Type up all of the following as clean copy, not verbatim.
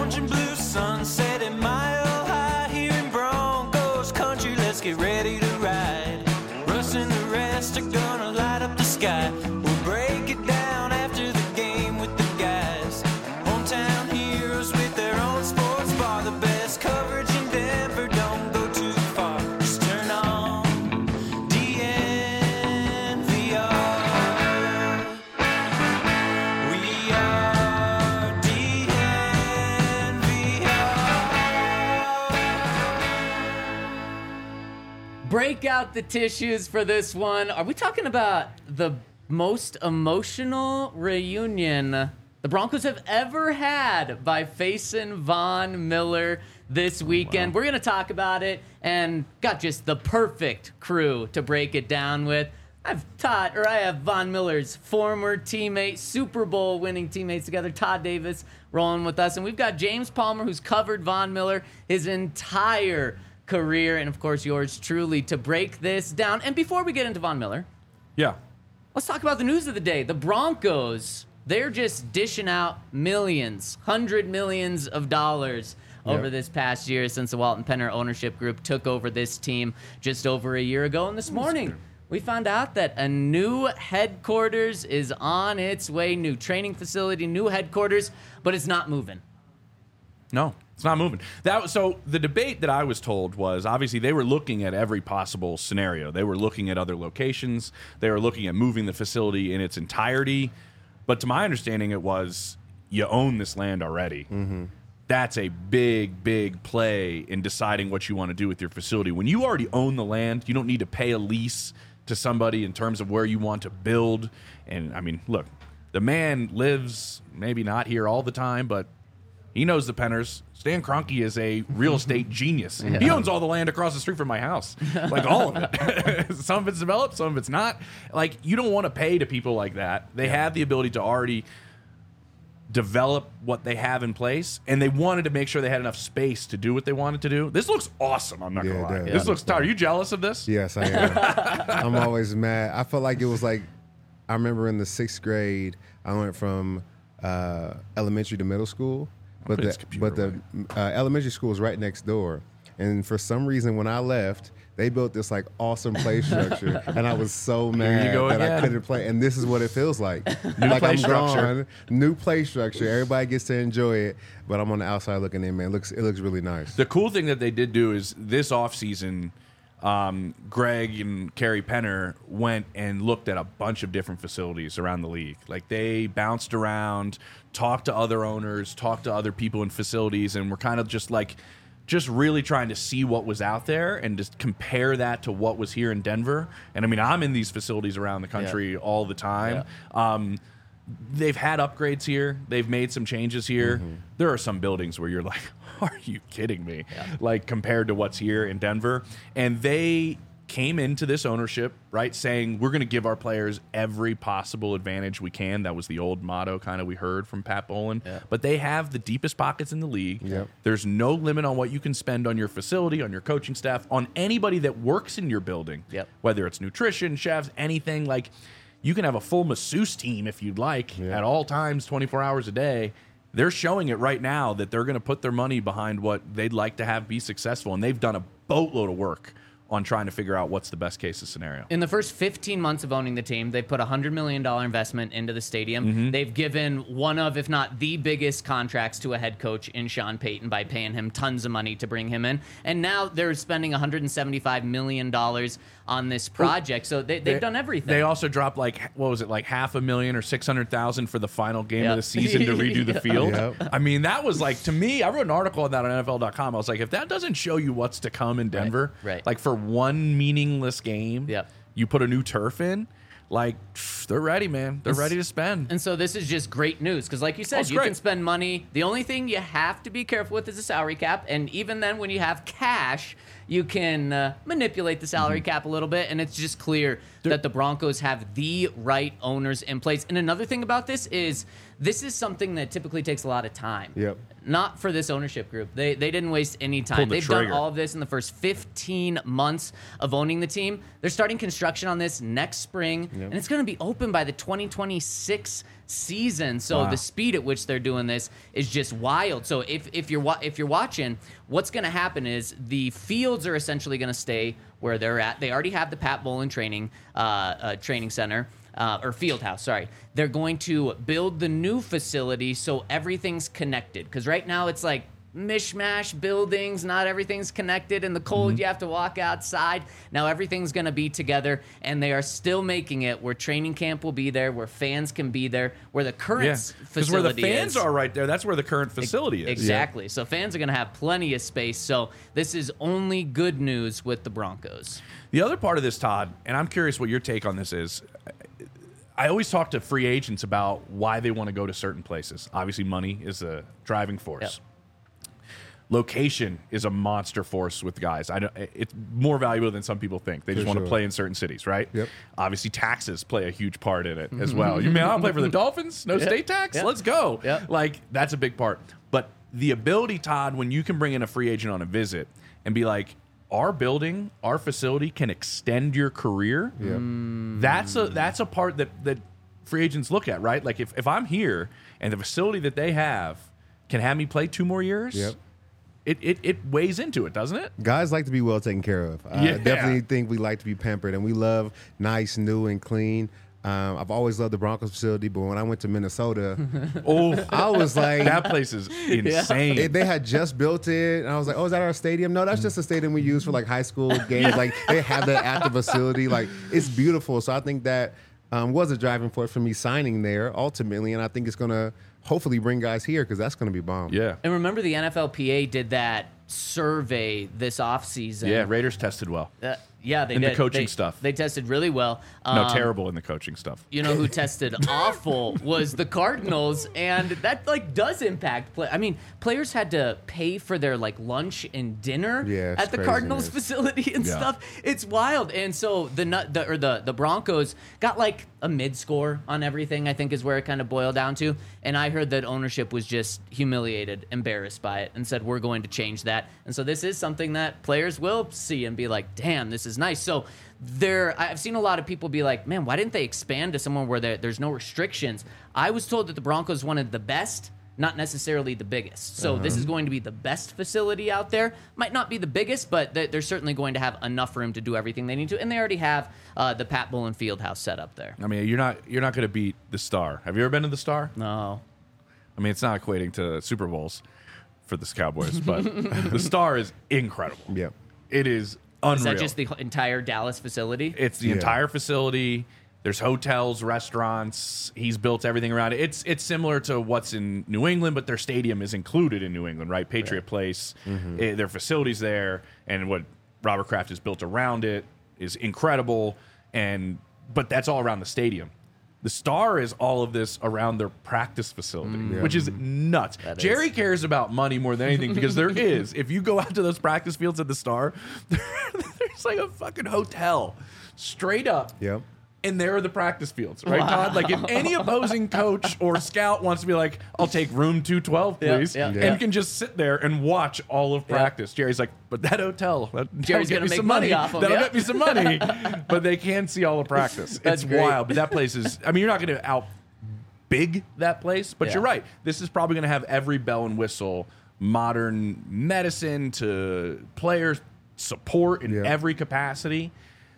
orange and blue sunset at Mile High here in Broncos country. Let's get ready to ride. Russ and the rest are gonna light up the sky. We'll break it down after the game with the guys. Hometown heroes with their own sports bar. The best coverage in Denver, don't go too far. Just turn on DNVR. We are DNVR. Break out the tissues for this one. Are we talking about the most emotional reunion the Broncos have ever had by facing Von Miller this weekend? We're going to talk about it and got just the perfect crew to break it down with. I have Von Miller's former teammate, Super Bowl winning teammates together, Todd Davis, rolling with us. And we've got James Palmer, who's covered Von Miller his entire career, and of course yours truly, to break this down. And before we get into Von Miller, let's talk about the news of the day. The Broncos, they're just dishing out millions, $100 millions of dollars over this past year since the Walton Penner ownership group took over this team just over a year ago. And this morning, we found out that a new headquarters is on its way, new training facility, new headquarters, but it's not moving. No, it's not moving. So the debate that I was told was, obviously they were looking at every possible scenario. They were looking at other locations. They were looking at moving the facility in its entirety. But to my understanding, it was, you own this land already. Mm-hmm. That's a big, big play in deciding what you want to do with your facility. When you already own the land, you don't need to pay a lease to somebody in terms of where you want to build. And, I mean, look, the man lives maybe not here all the time, but he knows the Penners. Stan Kroenke is a real estate genius. Yeah. He owns all the land across the street from my house. Like, all of it. Some of it's developed, some of it's not. Like, you don't want to pay to people like that. They have the ability to already develop what they have in place, and they wanted to make sure they had enough space to do what they wanted to do. This looks awesome, I'm not going to lie. This looks tight. Are you jealous of this? Yes, I am. I'm always mad. I felt like it was like, I remember in the 6th grade, I went from elementary to middle school. But the elementary school was right next door. And for some reason, when I left, they built this like awesome play structure, and I was so mad that I couldn't play. And this is what it feels like. New play structure. Everybody gets to enjoy it, but I'm on the outside looking in, man. It looks really nice. The cool thing that they did do is this offseason, Greg and Kerry Penner went and looked at a bunch of different facilities around the league. Like, they bounced around, talked to other owners, talked to other people in facilities, and were kind of just really trying to see what was out there and just compare that to what was here in Denver. And I mean, I'm in these facilities around the country all the time. Yeah. They've had upgrades here. They've made some changes here. Mm-hmm. There are some buildings where you're like, are you kidding me? Yeah. Like, compared to what's here in Denver. And they came into this ownership, right, saying we're going to give our players every possible advantage we can. That was the old motto kind of we heard from Pat Bowlen. Yeah. But they have the deepest pockets in the league. Yep. There's no limit on what you can spend on your facility, on your coaching staff, on anybody that works in your building, whether it's nutrition, chefs, anything. Like, you can have a full masseuse team if you'd like at all times, 24 hours a day. They're showing it right now that they're going to put their money behind what they'd like to have be successful, and they've done a boatload of work on trying to figure out what's the best case scenario. In the first 15 months of owning the team, they put a $100 million investment into the stadium. Mm-hmm. They've given one of, if not the biggest contracts to a head coach in Sean Payton by paying him tons of money to bring him in. And now they're spending $175 million on this project. So they've done everything. They also dropped like $500,000 or $600,000 for the final game of the season to redo the field. Yep. I mean, that was like, to me, I wrote an article on that on NFL.com. I was like, if that doesn't show you what's to come in Denver, like for one meaningless game, you put a new turf in, like, they're ready, man. They're ready to spend. And so this is just great news because, like you said, you can spend money. The only thing you have to be careful with is the salary cap. And even then, when you have cash, you can manipulate the salary cap a little bit, and it's just clear that the Broncos have the right owners in place. And another thing about this is something that typically takes a lot of time. Yep. Not for this ownership group. They didn't waste any time. Pulled the They've done trigger. all of this in the first 15 months of owning the team. They're starting construction on this next spring, and it's going to be open by the 2026 season. So Wow. the speed at which they're doing this is just wild. So if you're watching, what's going to happen is the fields are essentially going to stay where they're at. They already have the Pat Bowlen training center. Or field house, sorry. They're going to build the new facility so everything's connected. Because right now it's like mishmash buildings, not everything's connected. In the cold, you have to walk outside. Now everything's going to be together, and they are still making it where training camp will be there, where fans can be there, where the current Because facility where the fans is. are right there, that's where the current facility is. Exactly. So fans are going to have plenty of space. So this is only good news with the Broncos. The other part of this, Todd, and I'm curious what your take on this is. I always talk to free agents about why they want to go to certain places. Obviously, money is a driving force. Yep. Location is a monster force with guys. It's more valuable than some people think. They just want to play in certain cities, right? Yep. Obviously, taxes play a huge part in it as well. You mean I'll play for the Dolphins? No state tax? Yep. Let's go. Yep. Like, that's a big part. But the ability, Todd, when you can bring in a free agent on a visit and be like, our building, our facility can extend your career. Yeah. That's a part that free agents look at, right? Like if I'm here and the facility that they have can have me play 2 more years, Yep. it weighs into it, doesn't it? Guys like to be well taken care of. I Yeah. definitely think we like to be pampered, and we love nice, new, and clean. I've always loved the Broncos facility, but when I went to Minnesota, Oh, I was like, that place is insane. they had just built it, and I was like, "Oh, is that our stadium?" No, that's just a stadium we use for like high school games. Like they have that at the facility. Like it's beautiful. So I think that was a driving force for me signing there ultimately, and I think it's gonna hopefully bring guys here because that's gonna be bomb. Yeah. And remember, the NFLPA did that survey this offseason. Yeah, Raiders tested well. Yeah, they In did. the coaching They- stuff. They tested really well. No, terrible in the coaching stuff. You know who tested awful was the Cardinals, and that like does impact play. I mean, players had to pay for their like lunch and dinner Yeah, it's at the Cardinals craziness. facility and Yeah. stuff. It's wild. And so the Broncos got like a mid score on everything, I think is where it kind of boiled down to. And I heard that ownership was just humiliated, embarrassed by it, and said we're going to change that. And so this is something that players will see and be like, damn, this is nice. So I've seen a lot of people be like, man, why didn't they expand to somewhere where there's no restrictions? I was told that the Broncos wanted the best, not necessarily the biggest. So this is going to be the best facility out there. Might not be the biggest, but they're certainly going to have enough room to do everything they need to. And they already have the Pat Bowlen Fieldhouse set up there. I mean, you're not going to beat the Star. Have you ever been to the Star? No. I mean, it's not equating to Super Bowls for the Cowboys, but the Star is incredible. Yep. It is unreal. Is that just the entire Dallas facility? It's the Yeah. entire facility. There's hotels, restaurants. He's built everything around it. It's similar to what's in New England, but their stadium is included in New England, right? Patriot Place. Their facilities there, and what Robert Kraft has built around it is incredible. But that's all around the stadium. The Star is all of this around their practice facility, which is nuts. Jerry cares about money more than anything because there is. If you go out to those practice fields at the Star, there's like a fucking hotel straight up. Yep. And there are the practice fields, right, Todd? Like if any opposing coach or scout wants to be like, I'll take room 212, please, yeah. and can just sit there and watch all of practice. Jerry's like, but that hotel, Jerry's that'll get gonna me make some money money. off 'em, That'll yeah. get me some money. But they can see all of practice. That's It's great. wild. But that place is, I mean, you're not going to out big that place, but Yeah. you're right. This is probably going to have every bell and whistle, modern medicine to players support in Yeah. every capacity.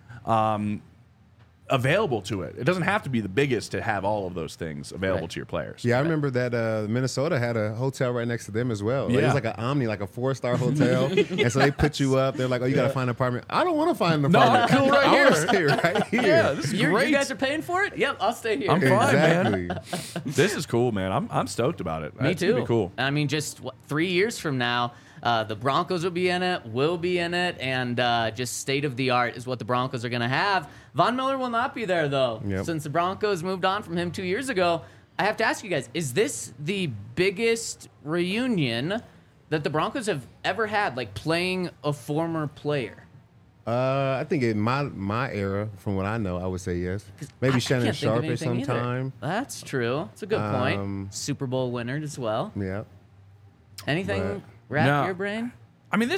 Available to it. It doesn't have to be the biggest to have all of those things available Right. to your players. Yeah, I remember that Minnesota had a hotel right next to them as well. Like, it Yeah. was like an Omni, like a 4-star hotel. And so they put you up. They're like, "Oh, you got to find an apartment." I don't want to find an No, apartment. I'm cool right I want to here. stay right here. Yeah, this is You great. guys are paying for it? Yep, I'll stay here. I'm fine, man. Exactly. This is cool, man. I'm stoked about it. Me It's too. gonna be cool. I mean, just 3 years from now, the Broncos will be in it, and just state of the art is what the Broncos are going to have. Von Miller will not be there, though. Yep. Since the Broncos moved on from him 2 years ago, I have to ask you guys, is this the biggest reunion that the Broncos have ever had, like playing a former player? I think in my era, from what I know, I would say yes. Maybe I Shannon can't think of Sharp at anything some either. time. That's true. It's a good point. Super Bowl winner as well. Yeah. Anything wrap No. your brain? I mean,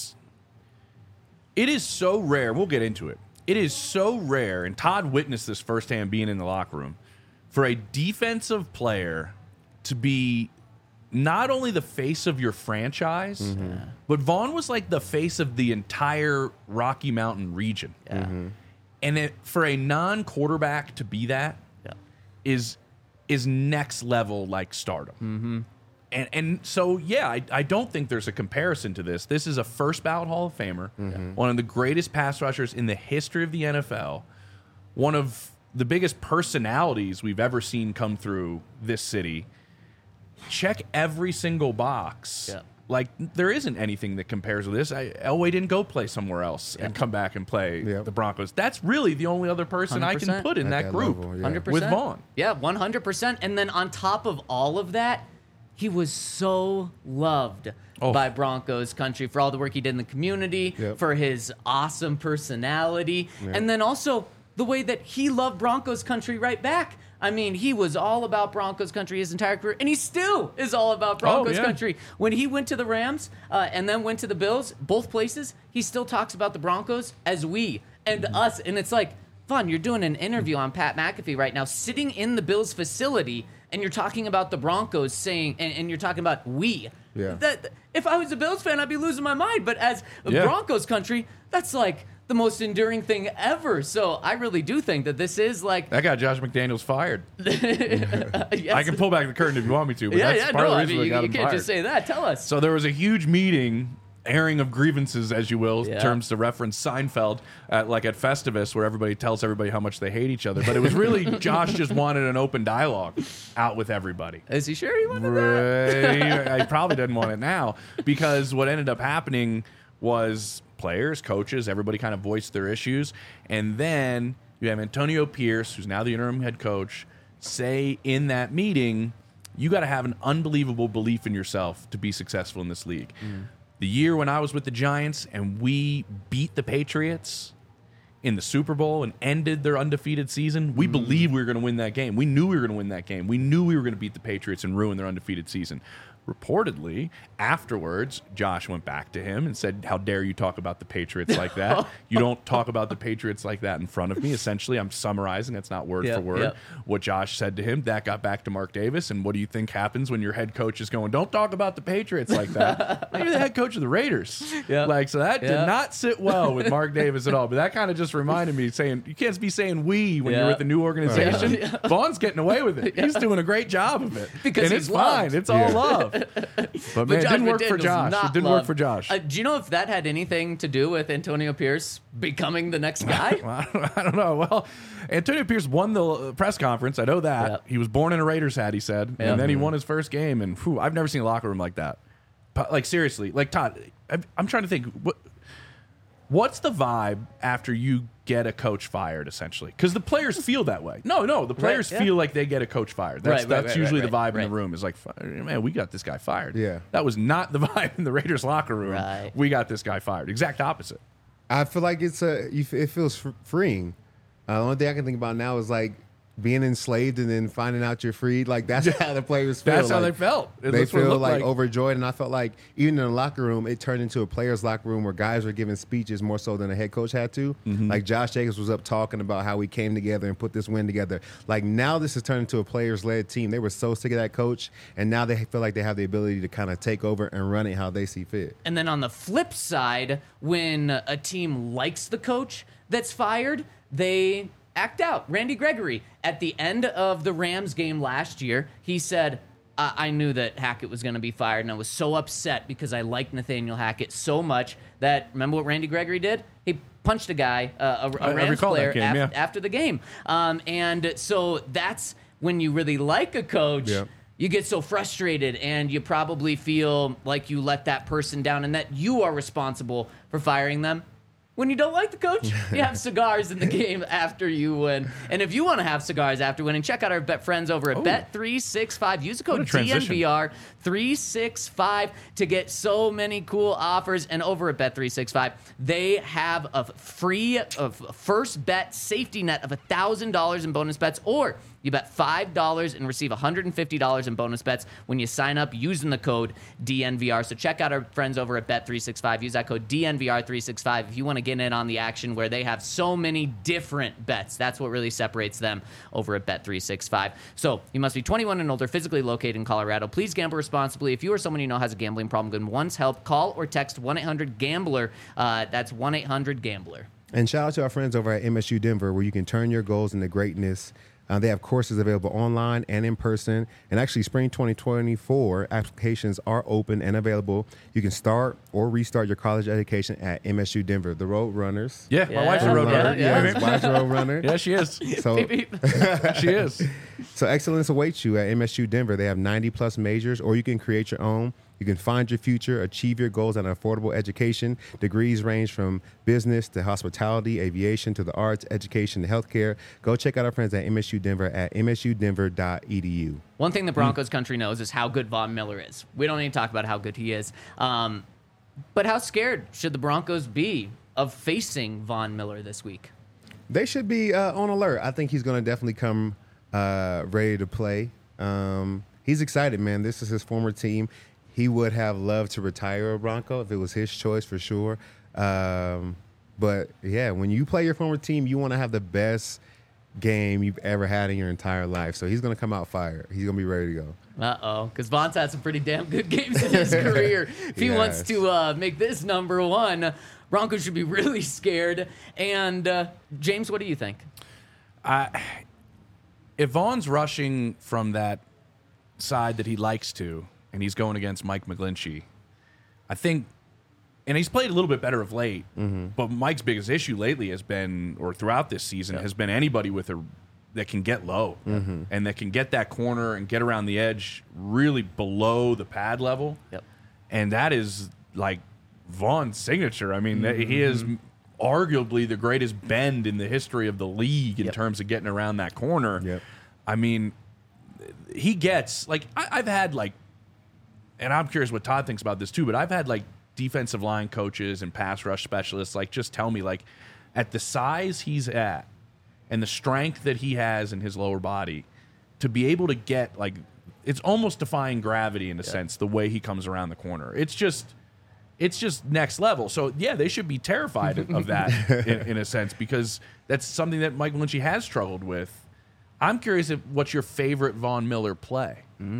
it is so rare. We'll get into it. It is so rare, and Todd witnessed this firsthand being in the locker room, for a defensive player to be not only the face of your franchise, but Vaughn was like the face of the entire Rocky Mountain region. Yeah. And for a non-quarterback to be that is next level like stardom. And so, yeah, I don't think there's a comparison to this. This is a first ballot Hall of Famer, one of the greatest pass rushers in the history of the NFL, one of the biggest personalities we've ever seen come through this city. Check every single box. Yeah. Like, there isn't anything that compares with this. Elway didn't go play somewhere else and come back and play the Broncos. That's really the only other person I can 100%. put in At that that group. level, yeah. 100%. With Vaughn. Yeah, 100%. And then on top of all of that, he was so loved by Broncos country for all the work he did in the community, for his awesome personality, and then also the way that he loved Broncos country right back. I mean, he was all about Broncos country his entire career, and he still is all about Broncos country. When he went to the Rams and then went to the Bills, both places, he still talks about the Broncos as we and us. And it's like, Vaughn, you're doing an interview on Pat McAfee right now, sitting in the Bills facility, and you're talking about the Broncos saying, and you're talking about we. Yeah. That, if I was a Bills fan, I'd be losing my mind. But as a Broncos country, that's like the most enduring thing ever. So I really do think that this is like That got Josh McDaniels fired. yes. I can pull back the curtain if you want me to, but that's part of the reason you they got him can't fired. just say that. Tell us. So there was a huge meeting, airing of grievances, as you will, in Yeah. terms to reference Seinfeld, at Festivus, where everybody tells everybody how much they hate each other. But it was really Josh just wanted an open dialogue out with everybody. Is he sure he wanted that? I probably didn't want it now, because what ended up happening was players, coaches, everybody kind of voiced their issues. And then you have Antonio Pierce, who's now the interim head coach, say in that meeting, you got to have an unbelievable belief in yourself to be successful in this league. The year when I was with the Giants and we beat the Patriots in the Super Bowl and ended their undefeated season, we believed we were going to win that game. We knew we were going to win that game. We knew we were going to beat the Patriots and ruin their undefeated season. Reportedly, afterwards, Josh went back to him and said, how dare you talk about the Patriots like that? You don't talk about the Patriots like that in front of me. Essentially, I'm summarizing. That's not word for word. What Josh said to him. That got back to Mark Davis. And what do you think happens when your head coach is going, don't talk about the Patriots like that? You're the head coach of the Raiders. So that did not sit well with Mark Davis at all. But that kind of just reminded me, saying, you can't be saying we when you're with a new organization. Vaughn's getting away with it. He's doing a great job of it. Because and he's it's fine. loved. It's all love. But man, it Josh didn't work for McDaniels Josh. not It didn't loved. work for Josh. Do you know if that had anything to do with Antonio Pierce becoming the next guy? I don't know. Well, Antonio Pierce won the press conference. I know that. Yep. He was born in a Raiders hat, he said. Yep. And then he won his first game. And I've never seen a locker room like that. Like, seriously. Like, Todd, I'm trying to think. What's the vibe after you get a coach fired, essentially? Because the players feel that way. No, the players feel like they get a coach fired. That's usually the vibe in the room. Is like, man, we got this guy fired. Yeah. That was not the vibe in the Raiders locker room. Right. We got this guy fired. Exact opposite. I feel like it feels freeing. The only thing I can think about now is like being enslaved and then finding out you're freed. Like that's how the players feel. That's how like, they felt. They That's what it feel looked like overjoyed, and I felt like even in the locker room, it turned into a players' locker room where guys were giving speeches more so than a head coach had to. Like Josh Jacobs was up talking about how we came together and put this win together. Like now, this has turned into a players-led team. They were so sick of that coach, and now they feel like they have the ability to kind of take over and run it how they see fit. And then on the flip side, when a team likes the coach that's fired, they act out. Randy Gregory, at the end of the Rams game last year, he said, I knew that Hackett was going to be fired, and I was so upset because I liked Nathaniel Hackett so much that, remember what Randy Gregory did? He punched a guy, a Rams player, after the game. And so that's when you really like a coach. Yep. You get so frustrated, and you probably feel like you let that person down and that you are responsible for firing them. When you don't like the coach, you have cigars in the game after you win. And if you want to have cigars after winning, check out our bet friends over at Bet365. Use the code DNVR365 to get so many cool offers. And over at Bet365, they have a free first bet safety net of $1,000 in bonus bets, or you bet $5 and receive $150 in bonus bets when you sign up using the code DNVR. So check out our friends over at Bet365. Use that code DNVR365 if you want to get in on the action where they have so many different bets. That's what really separates them over at Bet365. So you must be 21 and older, physically located in Colorado. Please gamble responsibly. If you or someone you know has a gambling problem, good one's help, call or text 1-800-GAMBLER. That's 1-800-GAMBLER. And shout out to our friends over at MSU Denver, where you can turn your goals into greatness. They have courses available online and in person. And actually, spring 2024 applications are open and available. You can start or restart your college education at MSU Denver. The Road Runners. Yeah, my wife's a road runner. Yeah, wife's a road runner. Yeah, she is. So, She is. So excellence awaits you at MSU Denver. They have 90-plus majors, or you can create your own. You can find your future, achieve your goals at an affordable education. Degrees range from business to hospitality, aviation to the arts, education to healthcare. Go check out our friends at MSU Denver at msudenver.edu. One thing the Broncos country knows is how good Von Miller is. We don't need to talk about how good he is. But how scared should the Broncos be of facing Von Miller this week? They should be on alert. I think he's going to definitely come ready to play. He's excited, man. This is his former team. He would have loved to retire a Bronco if it was his choice, for sure. But, yeah, when you play your former team, you want to have the best game you've ever had in your entire life. So he's going to come out fire. He's going to be ready to go. Uh-oh, because Von's had some pretty damn good games in his career. If he wants to make this number one, Broncos should be really scared. And, James, what do you think? If Vaughn's rushing from that side that he likes to, and he's going against Mike McGlinchey, I think, and he's played a little bit better of late, but Mike's biggest issue lately has been, or throughout this season, has been anybody that can get low and that can get that corner and get around the edge really below the pad level. Yep. And that is like Vaughn's signature. I mean, he is arguably the greatest bend in the history of the league in terms of getting around that corner. Yep. I mean, he gets, like, I've had, like, and I'm curious what Todd thinks about this too, but I've had, like, defensive line coaches and pass rush specialists, like, just tell me, like, at the size he's at and the strength that he has in his lower body, to be able to get, like, it's almost defying gravity in a sense, the way he comes around the corner. It's just next level. So, yeah, they should be terrified of that in a sense, because that's something that Mike Lynch has struggled with. I'm curious what's your favorite Von Miller play?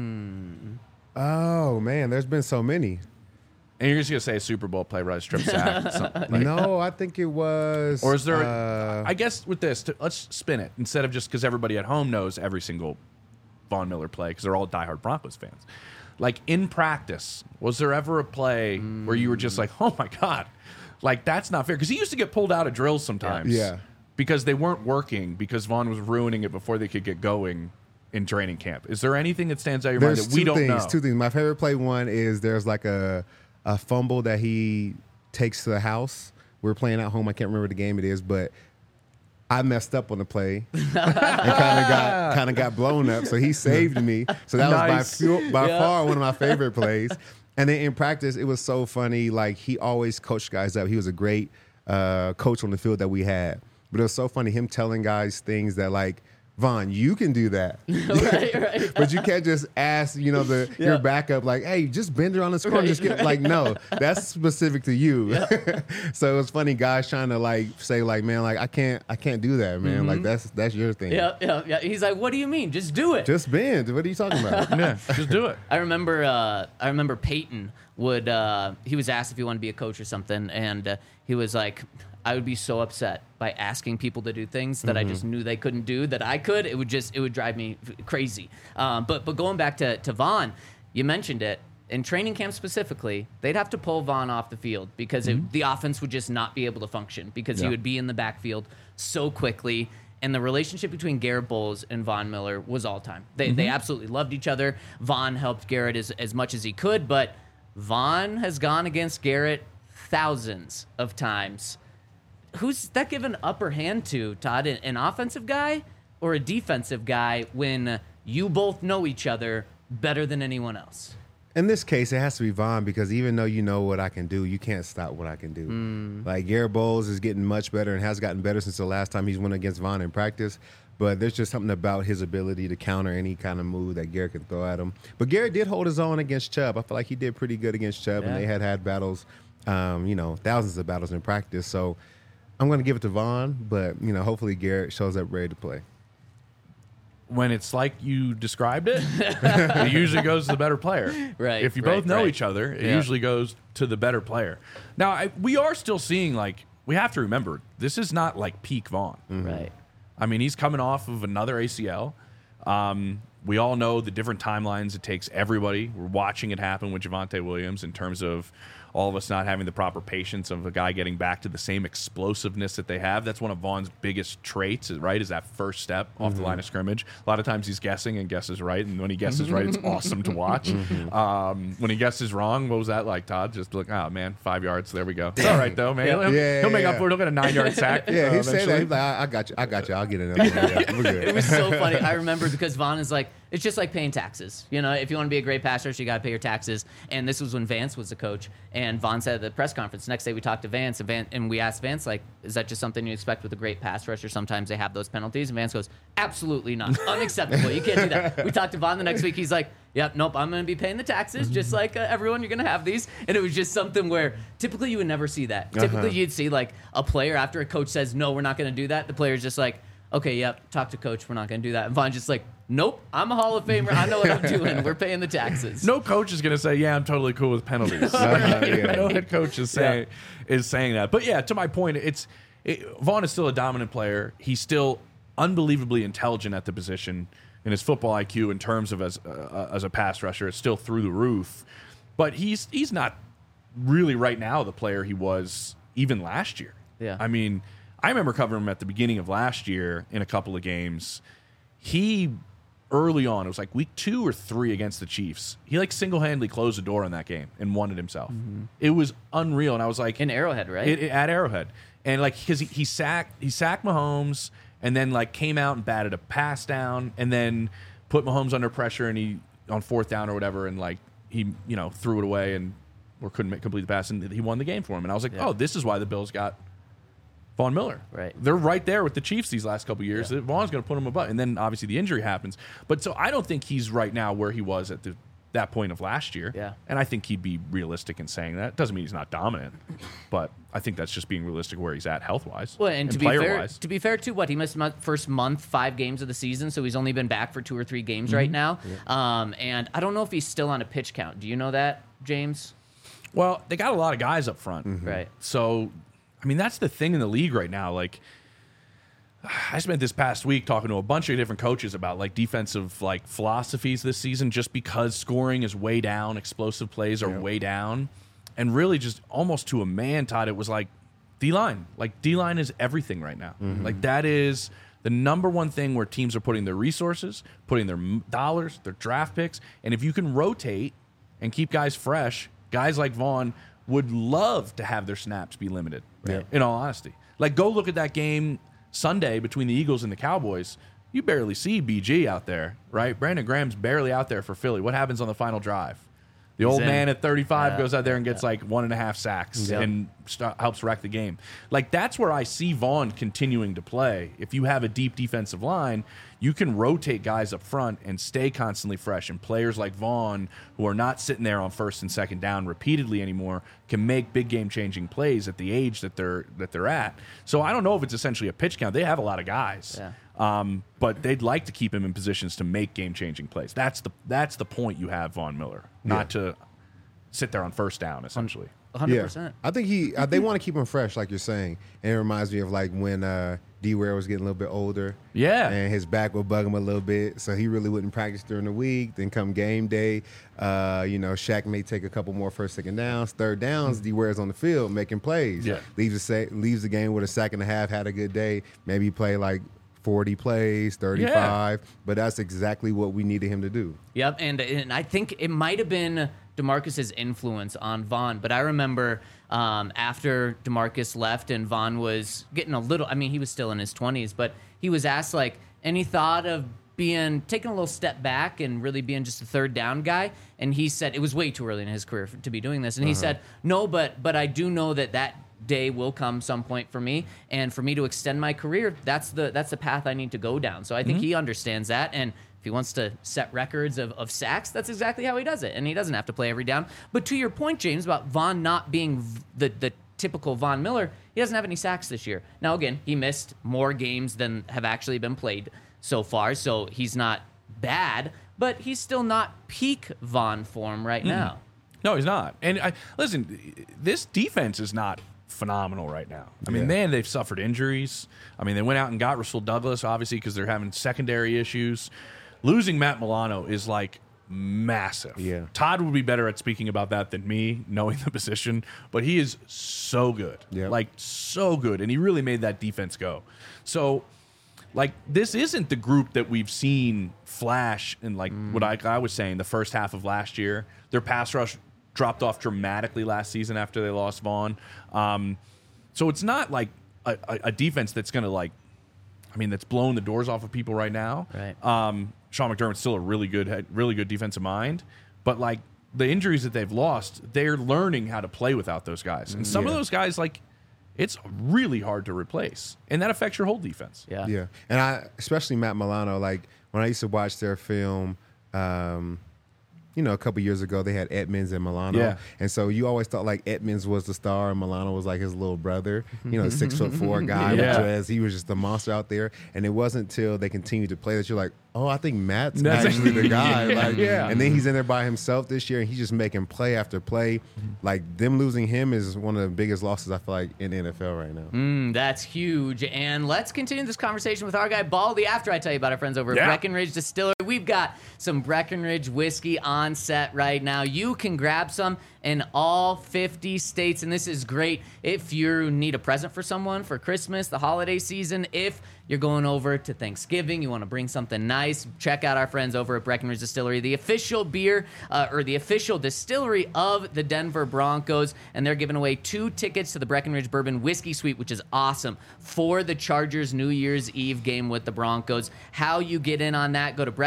Oh, man, there's been so many. And you're just going to say a Super Bowl play, right? Strip sack. No, I think it was... Or is there... I guess with this, let's spin it. Instead of just because everybody at home knows every single Von Miller play, because they're all diehard Broncos fans. Like, in practice, was there ever a play where you were just like, oh, my God, like, that's not fair? Because he used to get pulled out of drills sometimes. Yeah. Because they weren't working, because Von was ruining it before they could get going in training camp. Is there anything that stands out in your mind that we don't know? Two things. My favorite play one is there's like a fumble that he takes to the house. We're playing at home. I can't remember the game it is, but I messed up on the play and kind of got blown up. So he saved me. So that was by far one of my favorite plays. And then in practice, it was so funny. Like, he always coached guys up. He was a great coach on the field that we had. But it was so funny, him telling guys things that, like, Von, you can do that. right. But you can't just ask, your backup, like, hey, just bend her on the score. Like, no, that's specific to you. So it was funny, guys trying to, like, say, like, man, like, I can't do that, man. Like, that's your thing. Yeah. He's like, what do you mean? Just do it. Just bend. What are you talking about? Yeah, just do it. I remember Peyton he was asked if he wanted to be a coach or something, and he was like, I would be so upset by asking people to do things that I just knew they couldn't do that I could. It would drive me crazy. But going back to Von, you mentioned it. In training camp specifically, they'd have to pull Von off the field because the offense would just not be able to function because he would be in the backfield so quickly. And the relationship between Garrett Bowles and Von Miller was all time. They absolutely loved each other. Von helped Garrett as much as he could, but Von has gone against Garrett thousands of times. who's that given upper hand to, Todd? An offensive guy or a defensive guy when you both know each other better than anyone else? In this case, it has to be Von, because even though you know what I can do, you can't stop what I can do. Like, Garrett Bowles is getting much better and has gotten better since the last time he's went against Von in practice. But there's just something about his ability to counter any kind of move that Garrett can throw at him. But Garrett did hold his own against Chubb. I feel like he did pretty good against Chubb, and they had battles, thousands of battles in practice. So I'm going to give it to Von, but, hopefully Garrett shows up ready to play. When it's like you described it, it usually goes to the better player. Right. If you both know each other, it usually goes to the better player. Now, we are still seeing, we have to remember, this is not like peak Vaughn. Right. I mean, he's coming off of another ACL. We all know the different timelines it takes everybody. We're watching it happen with Javonte Williams in terms of all of us not having the proper patience of a guy getting back to the same explosiveness that they have. That's one of Vaughn's biggest traits, right, is that first step off the line of scrimmage. A lot of times he's guessing and guesses right, and when he guesses right, it's awesome to watch. When he guesses wrong, what was that like, Todd? Just look, 5 yards, there we go. It's all right, though, man. He'll make up for it. He'll get a 9-yard sack. Yeah, he said that. He's like, I got you. I'll get it. We're good. It was so funny. I remember because Vaughn is like, it's just like paying taxes. If you want to be a great passer, you got to pay your taxes. And this was when Vance was the coach. And Vaughn said at the press conference, next day we talked to Vance, and we asked Vance, is that just something you expect with a great pass rusher? Sometimes they have those penalties. And Vance goes, absolutely not. Unacceptable. You can't do that. We talked to Vaughn the next week. He's like, yep, nope, I'm going to be paying the taxes just like everyone. You're going to have these. And it was just something where typically you would never see that. Typically you'd see a player after a coach says, no, we're not going to do that. The player's just like, okay, yep, talk to coach. We're not going to do that. And Vaughn's just like, nope, I'm a Hall of Famer. I know what I'm doing. We're paying the taxes. No coach is going to say, yeah, I'm totally cool with penalties. No head coach is saying that. But yeah, to my point, Vaughn is still a dominant player. He's still unbelievably intelligent at the position, and his football IQ in terms of as a pass rusher is still through the roof. But he's not really right now the player he was even last year. Yeah. I mean, I remember covering him at the beginning of last year in a couple of games. He, early on, it was like week 2 or 3 against the Chiefs. He single-handedly closed the door on that game and won it himself. It was unreal, and I was like, in Arrowhead, right? At Arrowhead, and because he sacked Mahomes, and then came out and batted a pass down, and then put Mahomes under pressure, and he on 4th down or whatever, and he threw it away or couldn't complete the pass, and he won the game for him. And I was like, oh, this is why the Bills got Von Miller. Right. They're right there with the Chiefs these last couple of years. Yeah. Vaughn's going to put him above. And then, obviously, the injury happens. But so I don't think he's right now where he was at that point of last year. Yeah. And I think he'd be realistic in saying that. Doesn't mean he's not dominant. But I think that's just being realistic where he's at health-wise. Well, and to be fair, too, he missed first month, 5 games of the season, so he's only been back for 2 or 3 games right now. Yeah. And I don't know if he's still on a pitch count. Do you know that, James? Well, they got a lot of guys up front. Right. So, I mean, that's the thing in the league right now. I spent this past week talking to a bunch of different coaches about defensive philosophies this season, just because scoring is way down, explosive plays are way down, and really just almost to a man, Todd, it was D-line. D-line is everything right now. That is the number one thing where teams are putting their resources, putting their dollars, their draft picks, and if you can rotate and keep guys fresh, guys like Vaughn would love to have their snaps be limited, in all honesty. Go look at that game Sunday between the Eagles and the Cowboys. You barely see BG out there, right? Brandon Graham's barely out there for Philly. What happens on the final drive? The old man at 35 goes out there and gets 1.5 sacks and helps wreck the game. That's where I see Vaughn continuing to play. If you have a deep defensive line, you can rotate guys up front and stay constantly fresh. And players like Vaughn, who are not sitting there on 1st and 2nd down repeatedly anymore, can make big game-changing plays at the age that they're at. So I don't know if it's essentially a pitch count. They have a lot of guys. Yeah. But they'd like to keep him in positions to make game-changing plays. That's the point you have Von Miller, not to sit there on 1st down, essentially. 100%. Yeah. I think they want to keep him fresh, like you're saying. And it reminds me of when D-Ware was getting a little bit older. Yeah. And his back would bug him a little bit, so he really wouldn't practice during the week. Then come game day, Shaq may take a couple more 1st, 2nd downs. 3rd downs, D-Ware's on the field making plays. Yeah. Leaves the game with a sack and a half, had a good day. Maybe play 40 plays, 35, but that's exactly what we needed him to do. Yep, and I think it might have been DeMarcus's influence on Vaughn, but I remember after DeMarcus left and Vaughn was getting a little, I mean, he was still in his 20s, but he was asked, like, any thought of taking a little step back and really being just a third down guy? And he said it was way too early in his career to be doing this. And he said, no, but I do know that day will come some point for me, and for me to extend my career, that's the path I need to go down. So I think he understands that, and if he wants to set records of sacks, that's exactly how he does it, and he doesn't have to play every down. But to your point, James, about Vaughn not being the typical Von Miller, he doesn't have any sacks this year. Now again, he missed more games than have actually been played so far, so he's not bad, but he's still not peak Vaughn form right now. No, he's not. And listen, this defense is not phenomenal right now. I mean, man, they've suffered injuries. I mean, they went out and got Rasul Douglas, obviously, because they're having secondary issues. Losing Matt Milano is like massive. Yeah. Todd would be better at speaking about that than me, knowing the position, but he is so good. Yeah. Like, so good. And he really made that defense go. So, like, this isn't the group that we've seen flash in, like, what I was saying, the first half of last year. Their pass rush dropped off dramatically last season after they lost Vaughn. So it's not like a defense that's going to, like, I mean, that's blowing the doors off of people right now. Right. Sean McDermott's still a really good defensive mind, but, like, the injuries that they've lost, they're learning how to play without those guys. And some of those guys, like, it's really hard to replace, and that affects your whole defense. Yeah. And especially Matt Milano, like, when I used to watch their film, a couple years ago, they had Edmonds and Milano. Yeah. And so you always thought, like, Edmonds was the star and Milano was like his little brother, 6'4" guy with dreads. He was just a monster out there. And it wasn't until they continued to play that you're like, oh, I think Matt's actually the guy. And then he's in there by himself this year, and he's just making play after play. Like, them losing him is one of the biggest losses, I feel like, in the NFL right now. That's huge. And let's continue this conversation with our guy, Baldy, after I tell you about our friends over at Breckenridge Distillery. We've got some Breckenridge whiskey on set right now. You can grab some in all 50 states, and this is great if you need a present for someone for Christmas, the holiday season. If you're going over to Thanksgiving, you want to bring something nice, check out our friends over at Breckenridge Distillery, the official beer or the official distillery of the Denver Broncos, and they're giving away 2 tickets to the Breckenridge Bourbon Whiskey Suite, which is awesome, for the Chargers New Year's Eve game with the Broncos. How you get in on that, go to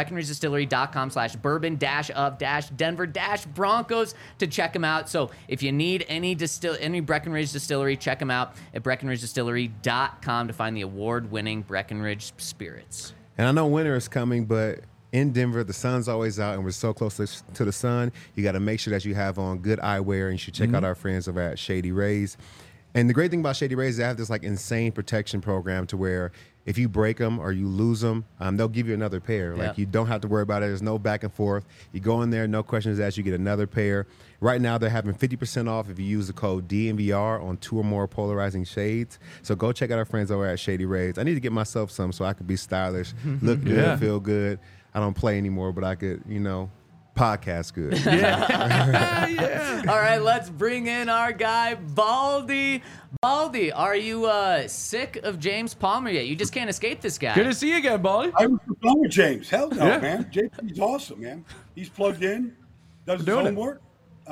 BreckenridgeDistillery.com/bourbon-of-Denver-Broncos to check them out. So if you need any Breckenridge Distillery, check them out at BreckenridgeDistillery.com to find the award-winning Breckenridge spirits. And I know winter is coming, but in Denver, the sun's always out, and we're so close to the sun. You got to make sure that you have on good eyewear, and you should check out our friends over at Shady Rays. And the great thing about Shady Rays is they have this, like, insane protection program to where if you break them or you lose them, they'll give you another pair. Like, you don't have to worry about it. There's no back and forth. You go in there, no questions asked, you get another pair. Right now, they're having 50% off if you use the code DNVR on 2 or more polarizing shades. So go check out our friends over at Shady Rays. I need to get myself some so I could be stylish, look good, feel good. I don't play anymore, but I could, podcast good. All right, let's bring in our guy, Baldy. Baldy, are you sick of James Palmer yet? You just can't escape this guy. Good to see you again, Baldy. I was done with James. Hell no, man. JP's awesome, man. He's plugged in, does his homework.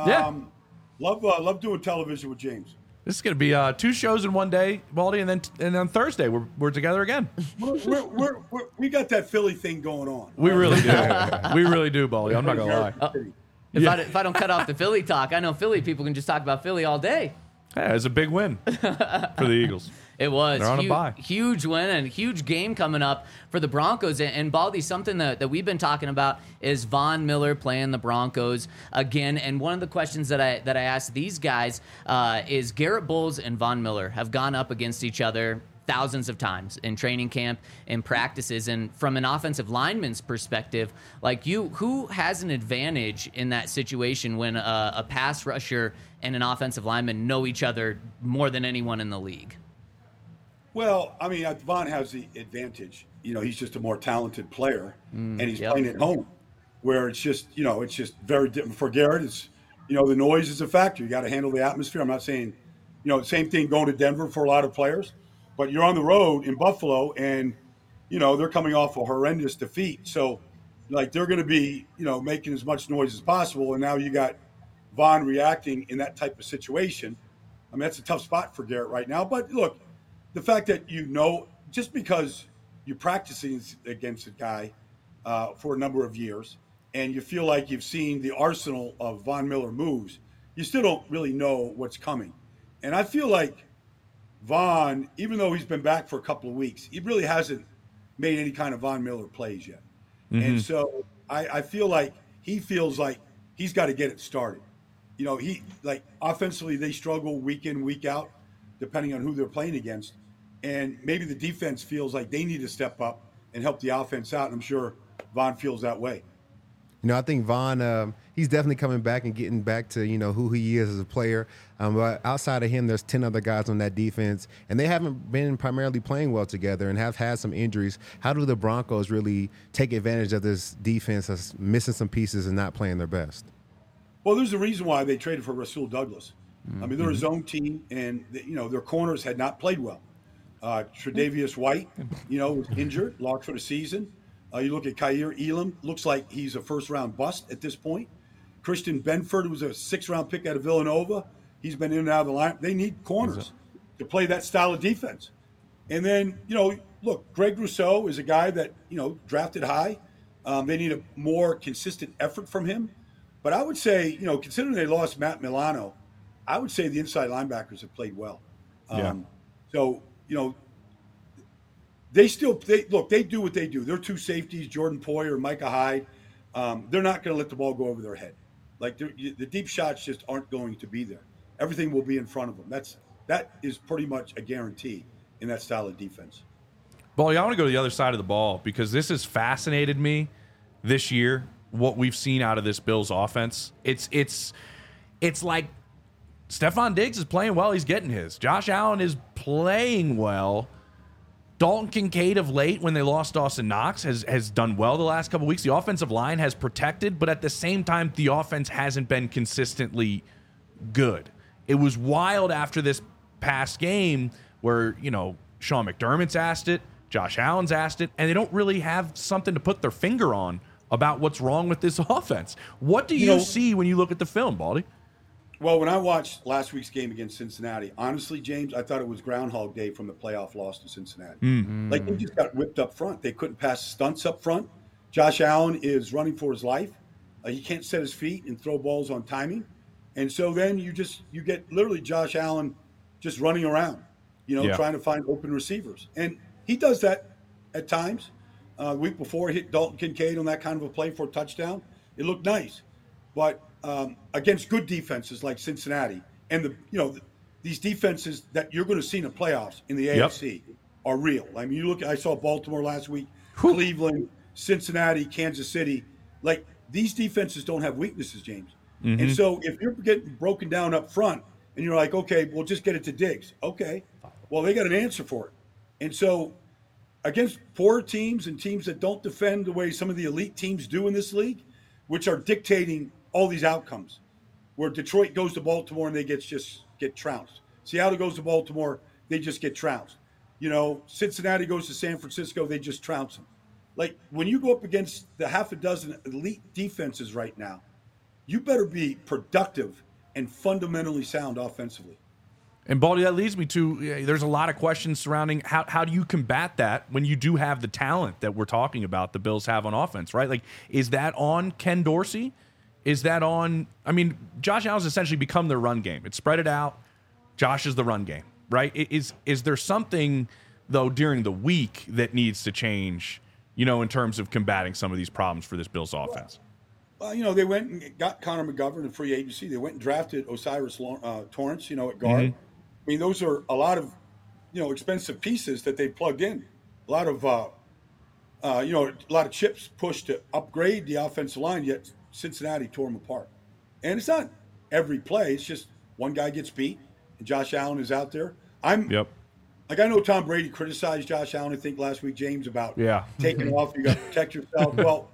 Love doing television with James. This is going to be 2 shows in one day, Baldy, and then on Thursday we're together again. We got that Philly thing going on. We really do. We really do, Baldy. I'm not going to lie. If I don't cut off the Philly talk, I know Philly people can just talk about Philly all day. Yeah, it's a big win for the Eagles. It was. They're on a bye. Huge win and huge game coming up for the Broncos. And Baldy, something that we've been talking about is Von Miller playing the Broncos again. And one of the questions that I asked these guys is Garrett Bowles and Von Miller have gone up against each other thousands of times in training camp and practices. And from an offensive lineman's perspective, like who has an advantage in that situation when a pass rusher and an offensive lineman know each other more than anyone in the league? Well, I mean, Von has the advantage. He's just a more talented player, and he's playing at home, where it's just very different. For Garrett, it's, the noise is a factor. You got to handle the atmosphere. I'm not saying, same thing going to Denver for a lot of players, but you're on the road in Buffalo, and, they're coming off a horrendous defeat. So, like, they're going to be, making as much noise as possible. And now you got, Vaughn reacting in that type of situation. I mean, that's a tough spot for Garrett right now. But look, the fact that just because you're practicing against a guy for a number of years and you feel like you've seen the arsenal of Von Miller moves, you still don't really know what's coming. And I feel like Vaughn, even though he's been back for a couple of weeks, he really hasn't made any kind of Von Miller plays yet. Mm-hmm. And so I feel like he feels like he's got to get it started. Offensively, they struggle week in, week out, depending on who they're playing against. And maybe the defense feels like they need to step up and help the offense out. And I'm sure Vaughn feels that way. I think Vaughn, he's definitely coming back and getting back to, who he is as a player. But outside of him, there's 10 other guys on that defense, and they haven't been primarily playing well together and have had some injuries. How do the Broncos really take advantage of this defense that's missing some pieces and not playing their best? Well, there's a reason why they traded for Rasul Douglas. I mean, they're a zone team, and, their corners had not played well. Tre'Davious White, was injured, locked for the season. You look at Kaiir Elam, looks like he's a first-round bust at this point. Christian Benford, who was a sixth-round pick out of Villanova, he's been in and out of the lineup. They need corners to play that style of defense. And then, look, Greg Rousseau is a guy that, drafted high. They need a more consistent effort from him. But I would say, considering they lost Matt Milano, I would say the inside linebackers have played well. So, they do what they do. They're two safeties, Jordan Poyer and Micah Hyde. They're not going to let the ball go over their head. Like the deep shots just aren't going to be there. Everything will be in front of them. That is pretty much a guarantee in that style of defense. Well, I want to go to the other side of the ball because this has fascinated me this year. What we've seen out of this Bills offense, it's like Stephon Diggs is playing well. He's getting his. Josh Allen is playing well. Dalton Kincaid of late, when they lost Dawson Knox, has done well the last couple of weeks. The offensive line has protected, but at the same time, the offense hasn't been consistently good. It was wild after this past game where, Sean McDermott's asked it, Josh Allen's asked it, and they don't really have something to put their finger on about what's wrong with this offense. What do you see when you look at the film, Baldy? Well, when I watched last week's game against Cincinnati, honestly, James, I thought it was Groundhog Day from the playoff loss to Cincinnati. Mm-hmm. Like, they just got whipped up front. They couldn't pass stunts up front. Josh Allen is running for his life. He can't set his feet and throw balls on timing. And so then you get literally Josh Allen just running around, trying to find open receivers. And he does that at times. The week before, he hit Dalton Kincaid on that kind of a play for a touchdown. It looked nice. But against good defenses like Cincinnati and these defenses that you're going to see in the playoffs in the AFC are real. I mean, I saw Baltimore last week, Cleveland, Cincinnati, Kansas City. Like, these defenses don't have weaknesses, James. Mm-hmm. And so if you're getting broken down up front and you're like, okay, we'll just get it to Diggs. Okay, well, they got an answer for it. And so against poor teams and teams that don't defend the way some of the elite teams do in this league, which are dictating all these outcomes, where Detroit goes to Baltimore and they get trounced. Seattle goes to Baltimore, they just get trounced. Cincinnati goes to San Francisco, they just trounce them. Like, when you go up against the half a dozen elite defenses right now, you better be productive and fundamentally sound offensively. And, Baldy, that leads me to there's a lot of questions surrounding how do you combat that when you do have the talent that we're talking about the Bills have on offense, right? Like, is that on Ken Dorsey? Is that on – Josh Allen's essentially become their run game. It's spread it out. Josh is the run game, right? Is there something, though, during the week that needs to change, in terms of combating some of these problems for this Bills offense? Well, they went and got Connor McGovern in free agency. They went and drafted Osiris Torrance, at guard. Mm-hmm. I mean, those are a lot of, expensive pieces that they plugged in. A lot of, a lot of chips pushed to upgrade the offensive line, yet Cincinnati tore them apart. And it's not every play. It's just one guy gets beat, and Josh Allen is out there. I know Tom Brady criticized Josh Allen, I think, last week, James, about taking off. You got to protect yourself. Well,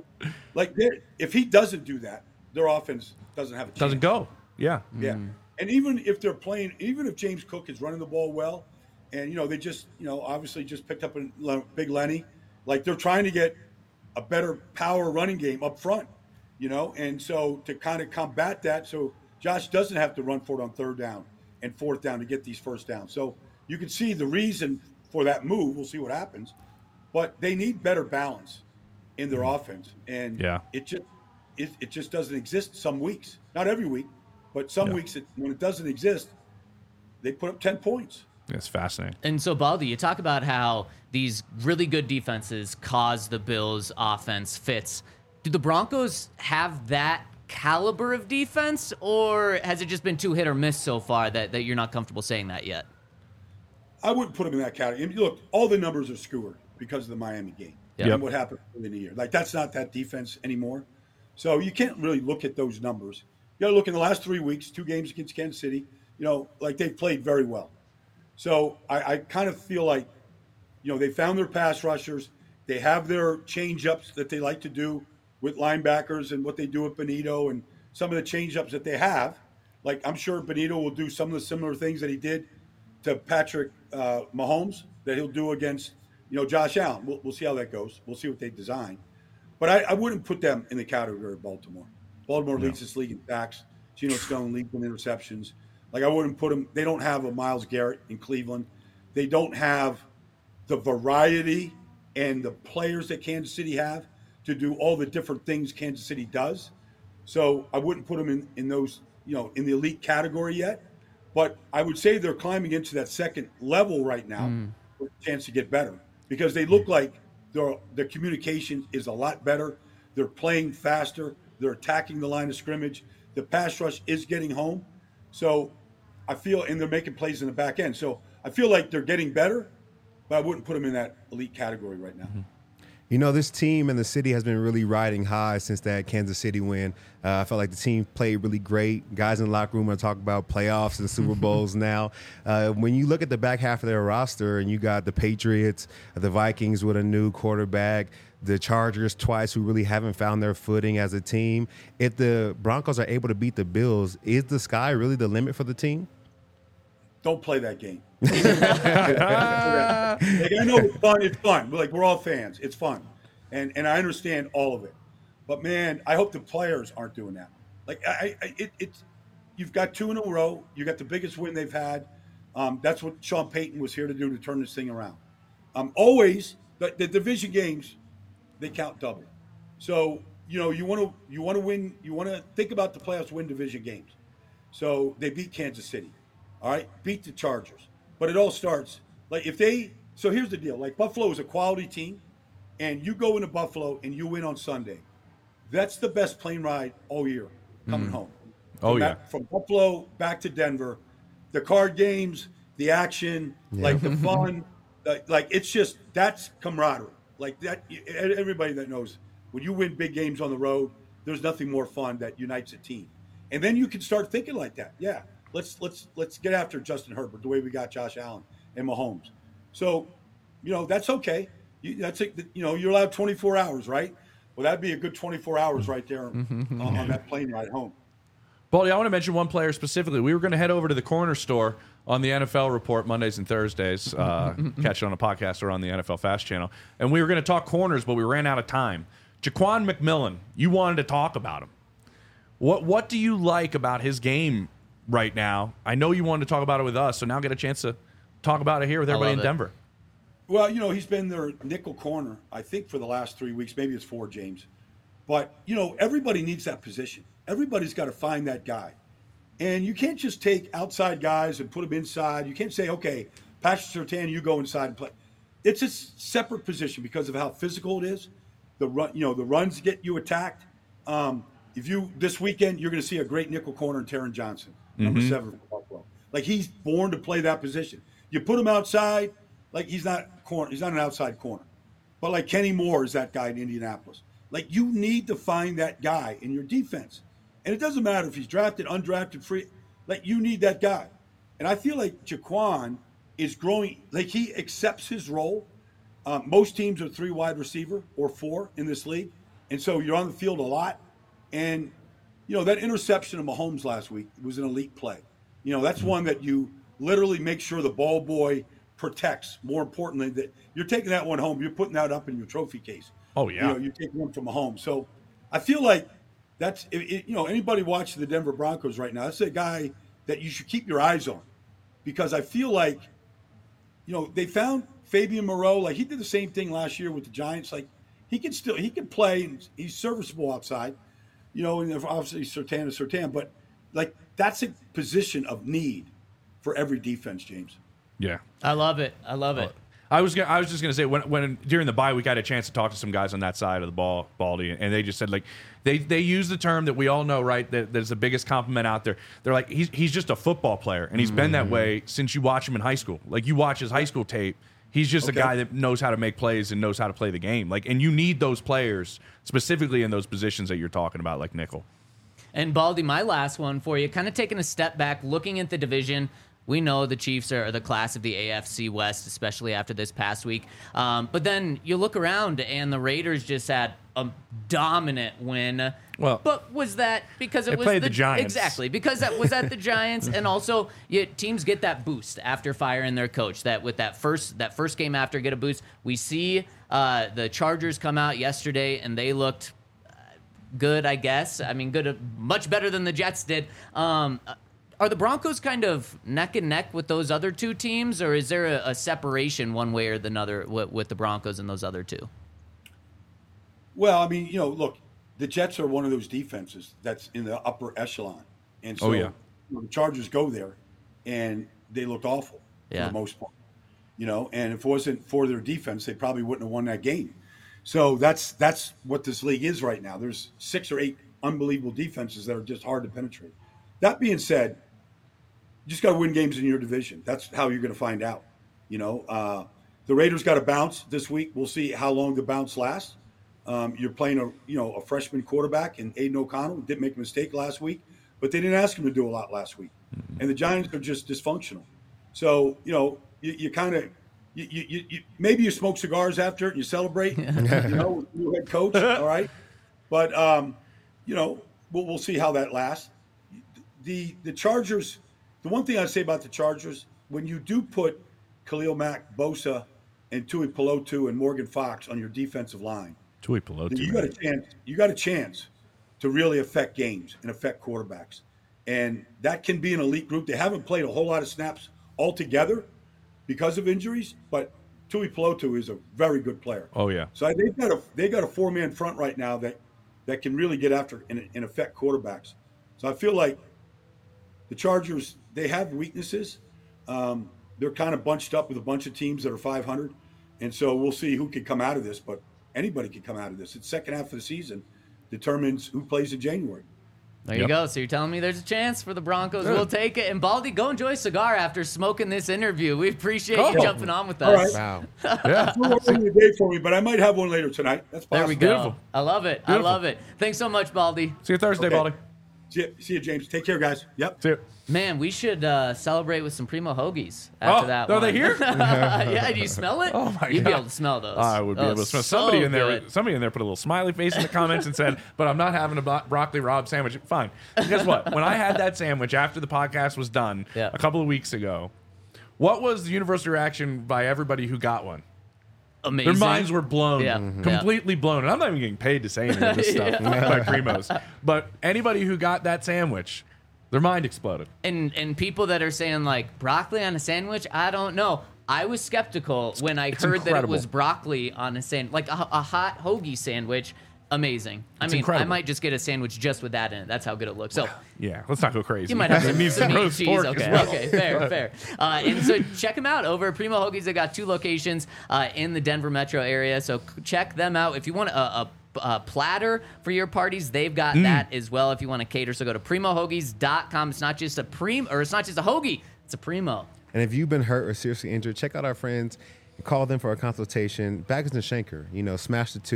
if he doesn't do that, their offense doesn't have a chance. Doesn't go. Yeah. Yeah. And even if they're playing, even if James Cook is running the ball well, and, they just, obviously just picked up a Big Lenny, like, they're trying to get a better power running game up front, and so to kind of combat that, so Josh doesn't have to run for it on third down and fourth down to get these first downs. So you can see the reason for that move. We'll see what happens. But they need better balance in their offense. And it just doesn't exist some weeks. Not every week, but some weeks when it doesn't exist, they put up 10 points. It's fascinating. And so, Baldy, you talk about how these really good defenses cause the Bills' offense fits. Do the Broncos have that caliber of defense, or has it just been too hit or miss so far that you're not comfortable saying that yet? I wouldn't put them in that category. I mean, look, all the numbers are skewed because of the Miami game and what happened in the year. Like, that's not that defense anymore. So you can't really look at those numbers. You got to look in the last 3 weeks, 2 games against Kansas City. Like they've played very well. So I kind of feel like, they found their pass rushers. They have their change-ups that they like to do with linebackers and what they do with Benito and some of the change-ups that they have. Like, I'm sure Benito will do some of the similar things that he did to Patrick Mahomes that he'll do against, Josh Allen. We'll see how that goes. We'll see what they design. But I wouldn't put them in the category of Baltimore. Baltimore leads this league in sacks. Geno Stone leads in interceptions. Like, I wouldn't put them – they don't have a Myles Garrett in Cleveland. They don't have the variety and the players that Kansas City have to do all the different things Kansas City does. So I wouldn't put them in those, in the elite category yet. But I would say they're climbing into that second level right now with a chance to get better because they look like their communication is a lot better. They're playing faster. They're attacking the line of scrimmage. The pass rush is getting home. So I feel, and they're making plays in the back end. So I feel like they're getting better, but I wouldn't put them in that elite category right now. This team and the city has been really riding high since that Kansas City win. I felt like the team played really great. Guys in the locker room are talking about playoffs and Super Bowls now. When you look at the back half of their roster and you got the Patriots, the Vikings with a new quarterback, the Chargers twice who really haven't found their footing as a team. If the Broncos are able to beat the Bills, is the sky really the limit for the team? Don't play that game. Like, I know it's fun. It's fun. Like, we're all fans. It's fun. And I understand all of it. But, man, I hope the players aren't doing that. Like, it's you've got 2 in a row. You got the biggest win they've had. That's what Sean Payton was here to do, to turn this thing around. Always, the division games, they count double. So, you want to win. You want to think about the playoffs, win division games. So they beat Kansas City. All right, beat the Chargers. But it all starts, like, so here's the deal. Like, Buffalo is a quality team, and you go into Buffalo and you win on Sunday. That's the best plane ride all year coming home. From Buffalo back to Denver, the card games, the action, like the fun, like it's just, that's camaraderie. Like that, everybody that knows, when you win big games on the road, there's nothing more fun that unites a team. And then you can start thinking like that. Yeah. Let's get after Justin Herbert the way we got Josh Allen and Mahomes. So, that's okay. You're allowed 24 hours, right? Well, that'd be a good 24 hours right there on that plane ride home. Baldy, I want to mention one player specifically. We were going to head over to the corner store on the NFL Report Mondays and Thursdays, catch it on a podcast or on the NFL Fast channel, and we were going to talk corners, but we ran out of time. Jaquan McMillan, you wanted to talk about him. What do you like about his game right now? I know you wanted to talk about it with us, so now get a chance to talk about it here with everybody in Denver. Well, he's been their nickel corner, I think, for the last 3 weeks. Maybe it's 4, James. But, everybody needs that position. Everybody's got to find that guy. And you can't just take outside guys and put them inside. You can't say, okay, Patrick Surtain, you go inside and play. It's a separate position because of how physical it is. The runs get you attacked. This weekend, you're going to see a great nickel corner in Taron Johnson, number 7 for Buffalo. Like, he's born to play that position. You put him outside, like, he's not an outside corner. But like Kenny Moore is that guy in Indianapolis. Like, you need to find that guy in your defense. And it doesn't matter if he's drafted, undrafted, free. Like, you need that guy. And I feel like Jaquan is growing. Like, he accepts his role. Most teams are 3 wide receiver or 4 in this league. And so you're on the field a lot. And, that interception of Mahomes last week was an elite play. That's one that you literally make sure the ball boy protects. More importantly, that you're taking that one home. You're putting that up in your trophy case. Oh, yeah. You're taking one from Mahomes. So I feel like that's anybody watching the Denver Broncos right now, that's a guy that you should keep your eyes on, because I feel like they found Fabian Moreau. Like, he did the same thing last year with the Giants. Like, he can play, and he's serviceable outside. And obviously Surtain, but like, that's a position of need for every defense, James. Yeah, I love it. I was just gonna say, when during the bye week I had a chance to talk to some guys on that side of the ball, Baldy, and they just said, like, they use the term that we all know, right? That's the biggest compliment out there. They're like, he's just a football player, and he's been that way since you watch him in high school. Like, you watch his high school tape, he's just a guy that knows how to make plays and knows how to play the game. Like, and you need those players specifically in those positions that you're talking about, like nickel. And Baldy, my last one for you, kind of taking a step back, looking at the division. We know the Chiefs are the class of the AFC West, especially after this past week. But then you look around, and the Raiders just had a dominant win. Well, but was that because it was played the Giants? Exactly, because that was at the Giants, and also teams get that boost after firing their coach. That with that first game after get a boost. We see the Chargers come out yesterday, and they looked good, I guess. I mean, good, much better than the Jets did. Are the Broncos kind of neck and neck with those other two teams, or is there a separation one way or the other with the Broncos and those other two? Well, I mean, look, the Jets are one of those defenses that's in the upper echelon. And so the Chargers go there, and they looked awful for the most part. And if it wasn't for their defense, they probably wouldn't have won that game. So that's what this league is right now. There's 6 or 8 unbelievable defenses that are just hard to penetrate. That being said, you just got to win games in your division. That's how you're going to find out. The Raiders got to bounce this week. We'll see how long the bounce lasts. You're playing a freshman quarterback in Aiden O'Connell. Didn't make a mistake last week, but they didn't ask him to do a lot last week. And the Giants are just dysfunctional. So you kind of maybe you smoke cigars after it and you celebrate. With the new head coach. All right, but we'll see how that lasts. The Chargers, the one thing I'd say about the Chargers, when you do put Khalil Mack, Bosa, and Tui Pelotu and Morgan Fox on your defensive line, Tui Pelotu, you got a chance to really affect games and affect quarterbacks. And that can be an elite group. They haven't played a whole lot of snaps altogether because of injuries, but Tui Pelotu is a very good player. Oh, yeah. So they got a 4-man front right now that can really get after and affect quarterbacks. So I feel like the Chargers, they have weaknesses. They're kind of bunched up with a bunch of teams that are 500. And so we'll see who can come out of this, but anybody can come out of this. It's second half of the season determines who plays in January. There you go. So you're telling me there's a chance for the Broncos. We'll take it. And Baldy, go enjoy a cigar after smoking this interview. We appreciate you jumping on with us. All right. Wow. Yeah. It's not working the day for me, but I might have one later tonight. That's possible. There we go. Beautiful. I love it. Beautiful. I love it. Thanks so much, Baldy. See you Thursday, Okay. Baldy. See you, James. Take care, guys. Yep. See you. Man, we should celebrate with some Primo Hoagies after that are one. they here? Yeah, do you smell it? Oh, my You'd be God. able to smell those. I would be Oh, able to smell. so Somebody in good. there put a little smiley face in the comments and said, "But I'm not having a broccoli Rob sandwich." Fine. And guess what? When I had that sandwich after the podcast was done a couple of weeks ago, what was the universal reaction by everybody who got one? Amazing. Their minds were blown, Yeah. completely blown. And I'm not even getting paid to say any of this stuff by Primos. But anybody who got that sandwich, their mind exploded. And people that are saying, like, broccoli on a sandwich, I don't know. I was skeptical when I heard that it incredible. was broccoli on a sandwich, like a hot hoagie sandwich. Amazing. I mean, incredible. I might just get a sandwich just with that in it. That's how good it looks. So Yeah, let's not go crazy. you might have It needs some meat, roast cheese. pork Okay, as well. okay, fair. And so check them out over at Primo Hoagies. They got 2 locations in the Denver metro area. So check them out. If you want a platter for your parties, they've got that as well. If you want to cater, so go to primohoagies.com. It's not just a it's not just a hoagie. It's a Primo. And if you've been hurt or seriously injured, check out our friends. Call them for a consultation. Baggers and Schenker, smash the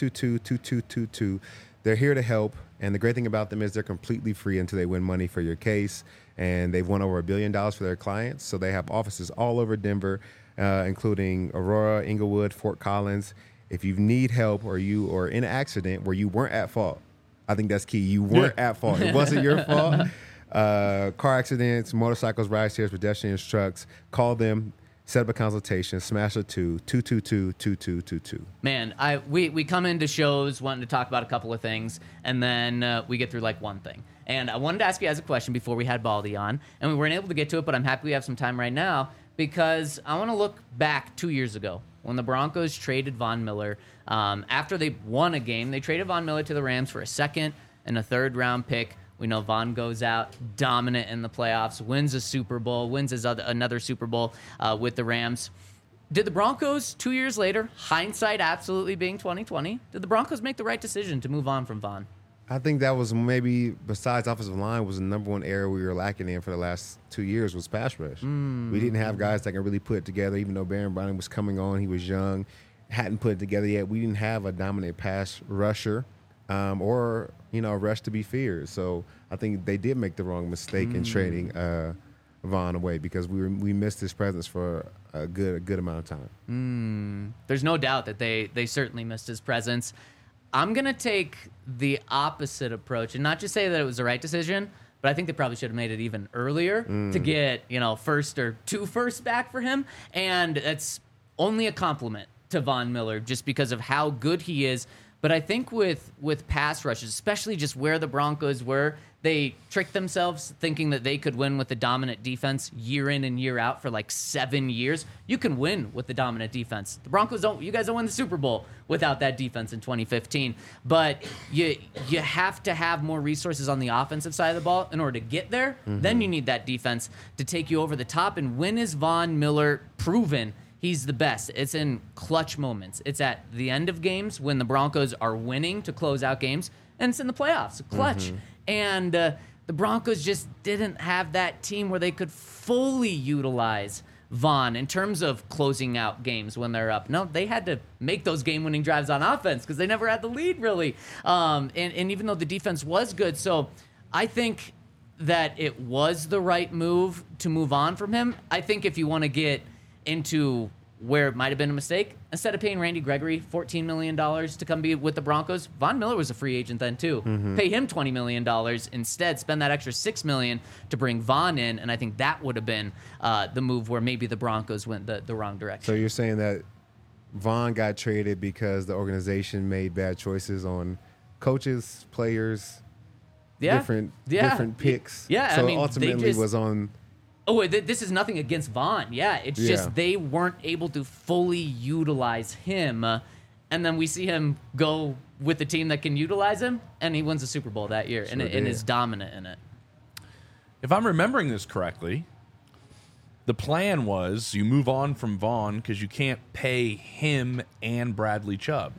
222-2222. They're here to help. And the great thing about them is they're completely free until they win money for your case. And they've won over $1 billion for their clients. So they have offices all over Denver, including Aurora, Inglewood, Fort Collins. If you need help or you are in an accident where you weren't at fault, I think that's key. You weren't at fault. It wasn't your fault. Car accidents, motorcycles, ride shares, pedestrians, trucks. Call them. set up a consultation, smash a 2-2-2-2-2-2-2. Man, we come into shows wanting to talk about a couple of things, and then we get through like one thing. And I wanted to ask you guys a question before we had Baldy on, and we weren't able to get to it, but I'm happy we have some time right now because I want to look back 2 years ago when the Broncos traded Von Miller. After they won a game, they traded Von Miller to the Rams for a second and a third-round pick. We know Von goes out dominant in the playoffs, wins a Super Bowl, wins another Super Bowl with the Rams. Did the Broncos 2 years later, hindsight absolutely being 2020, did the Broncos make the right decision to move on from Von? I think that was maybe, besides offensive line, was the number one area we were lacking in for the last 2 years was pass rush. We didn't have guys that can really put it together, even though Baron Browning was coming on. He was young, hadn't put it together yet. We didn't have a dominant pass rusher or a rush to be feared. So I think they did make the wrong mistake in trading Von away because we missed his presence for a good amount of time. There's no doubt that they certainly missed his presence. I'm going to take the opposite approach and not just say that it was the right decision, but I think they probably should have made it even earlier to get, first or two firsts back for him. And it's only a compliment to Von Miller just because of how good he is. But I think with pass rushes, especially just where the Broncos were, they tricked themselves thinking that they could win with a dominant defense year in and year out for like 7 years. You can win with the dominant defense. The Broncos you guys don't win the Super Bowl without that defense in 2015. But you have to have more resources on the offensive side of the ball in order to get there. Then you need that defense to take you over the top. And when is Von Miller proven he's the best? It's in clutch moments. It's at the end of games when the Broncos are winning to close out games, and it's in the playoffs, clutch. And the Broncos just didn't have that team where they could fully utilize Von in terms of closing out games when they're up. No, they had to make those game-winning drives on offense because they never had the lead, really. And even though the defense was good. So I think that it was the right move to move on from him. I think if you want to get into where it might have been a mistake, instead of paying Randy Gregory $14 million to come be with the Broncos, Von Miller was a free agent then too. Pay him $20 million instead, spend that extra $6 million to bring Von in, and I think that would have been the move where maybe the Broncos went the wrong direction. So you're saying that Von got traded because the organization made bad choices on coaches, players, different picks. Yeah, so I mean, ultimately was on. Oh, this is nothing against Von. Yeah, it's just they weren't able to fully utilize him. And then we see him go with the team that can utilize him, and he wins the Super Bowl that year and is dominant in it. If I'm remembering this correctly, the plan was you move on from Von because you can't pay him and Bradley Chubb.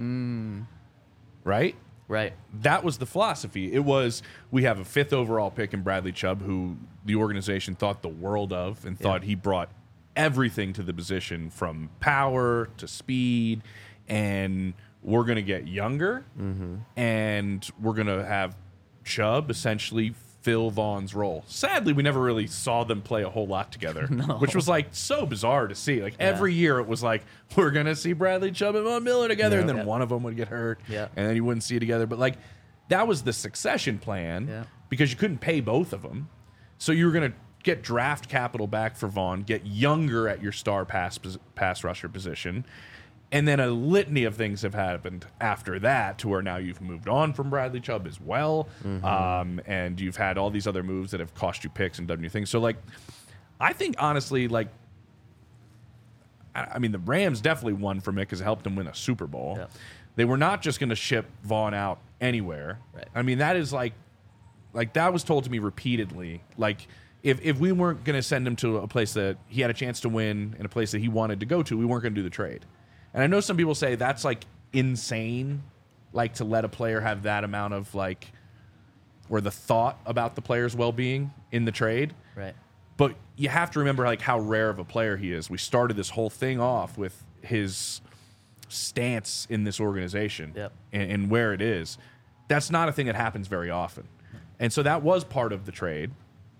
Right? Right. That was the philosophy. It was, we have a 5th overall pick in Bradley Chubb, who the organization thought the world of and thought he brought everything to the position from power to speed. And we're going to get younger and we're going to have Chubb essentially fill Von's role. Sadly, we never really saw them play a whole lot together, which was like so bizarre to see. Like every year it was like, we're going to see Bradley Chubb and Von Miller together, and then one of them would get hurt, and then you wouldn't see it together. But like that was the succession plan because you couldn't pay both of them. So you were going to get draft capital back for Von, get younger at your star pass rusher position. And then a litany of things have happened after that to where now you've moved on from Bradley Chubb as well. And you've had all these other moves that have cost you picks and done new things. So, like, I think, honestly, like, I mean, the Rams definitely won from it because it helped them win a Super Bowl. Yeah. They were not just going to ship Von out anywhere. Right. I mean, that is like that was told to me repeatedly. Like, if we weren't going to send him to a place that he had a chance to win and a place that he wanted to go to, we weren't going to do the trade. And I know some people say that's like insane, like to let a player have that amount of like, or the thought about the player's well-being in the trade. Right. But you have to remember like how rare of a player he is. We started this whole thing off with his stance in this organization and where it is. That's not a thing that happens very often. And so that was part of the trade.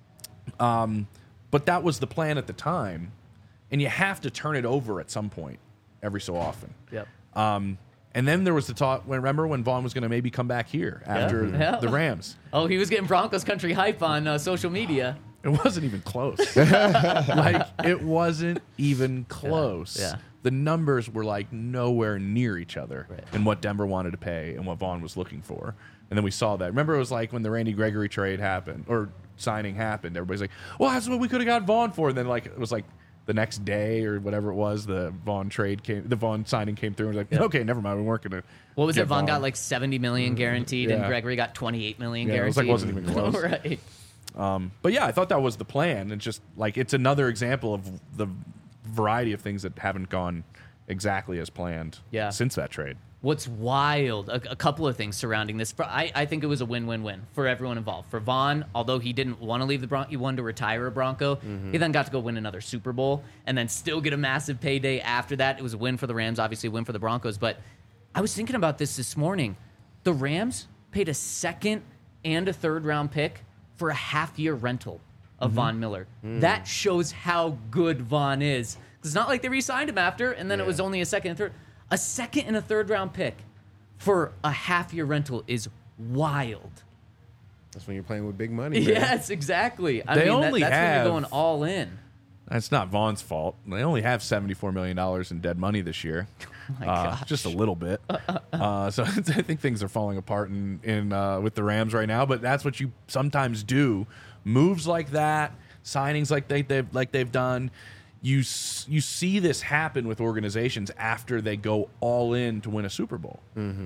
But that was the plan at the time. And you have to turn it over at some point. Every so often. And then there was the talk, remember when Von was going to maybe come back here after the Rams? Oh, he was getting Broncos country hype on social media. It wasn't even close. Like, it wasn't even close. Yeah. The numbers were like nowhere near each other Right. in what Denver wanted to pay and what Vaughn was looking for. And then we saw that. Remember, it was like when the Randy Gregory trade happened or signing happened. Everybody's like, well, that's what we could have got Vaughn for. And then, like, it was like the next day or whatever it was, the Vaughn signing came through. And was like, okay, never mind. We weren't going to. What was it? Vaughn got like 70 million guaranteed, and Yeah. Gregory got 28 million Yeah, it was guaranteed. like wasn't even close. Right. But yeah, I thought that was the plan. And just like, it's another example of the variety of things that haven't gone exactly as planned Yeah. since that trade. What's wild, a couple of things surrounding this. I think it was a win-win-win for everyone involved. For Vaughn, although he didn't want to leave the Broncos, he wanted to retire a Bronco. He then got to go win another Super Bowl and then still get a massive payday after that. It was a win for the Rams, obviously a win for the Broncos. But I was thinking about this morning. The Rams paid a second and a third-round pick for a half-year rental of Von Miller. That shows how good Vaughn is. It's not like they re-signed him after, and then it was only a second and third. A second and a third-round pick for a half-year rental is wild. That's when you're playing with big money, man. Yes, exactly. I They mean, only that's when have- you're going all in. That's not Vaughn's fault. They only have $74 million in dead money this year. my gosh. Just a little bit. So I think things are falling apart in with the Rams right now. But that's what you sometimes do. Moves like that, signings like they've done. You see this happen with organizations after they go all in to win a Super Bowl.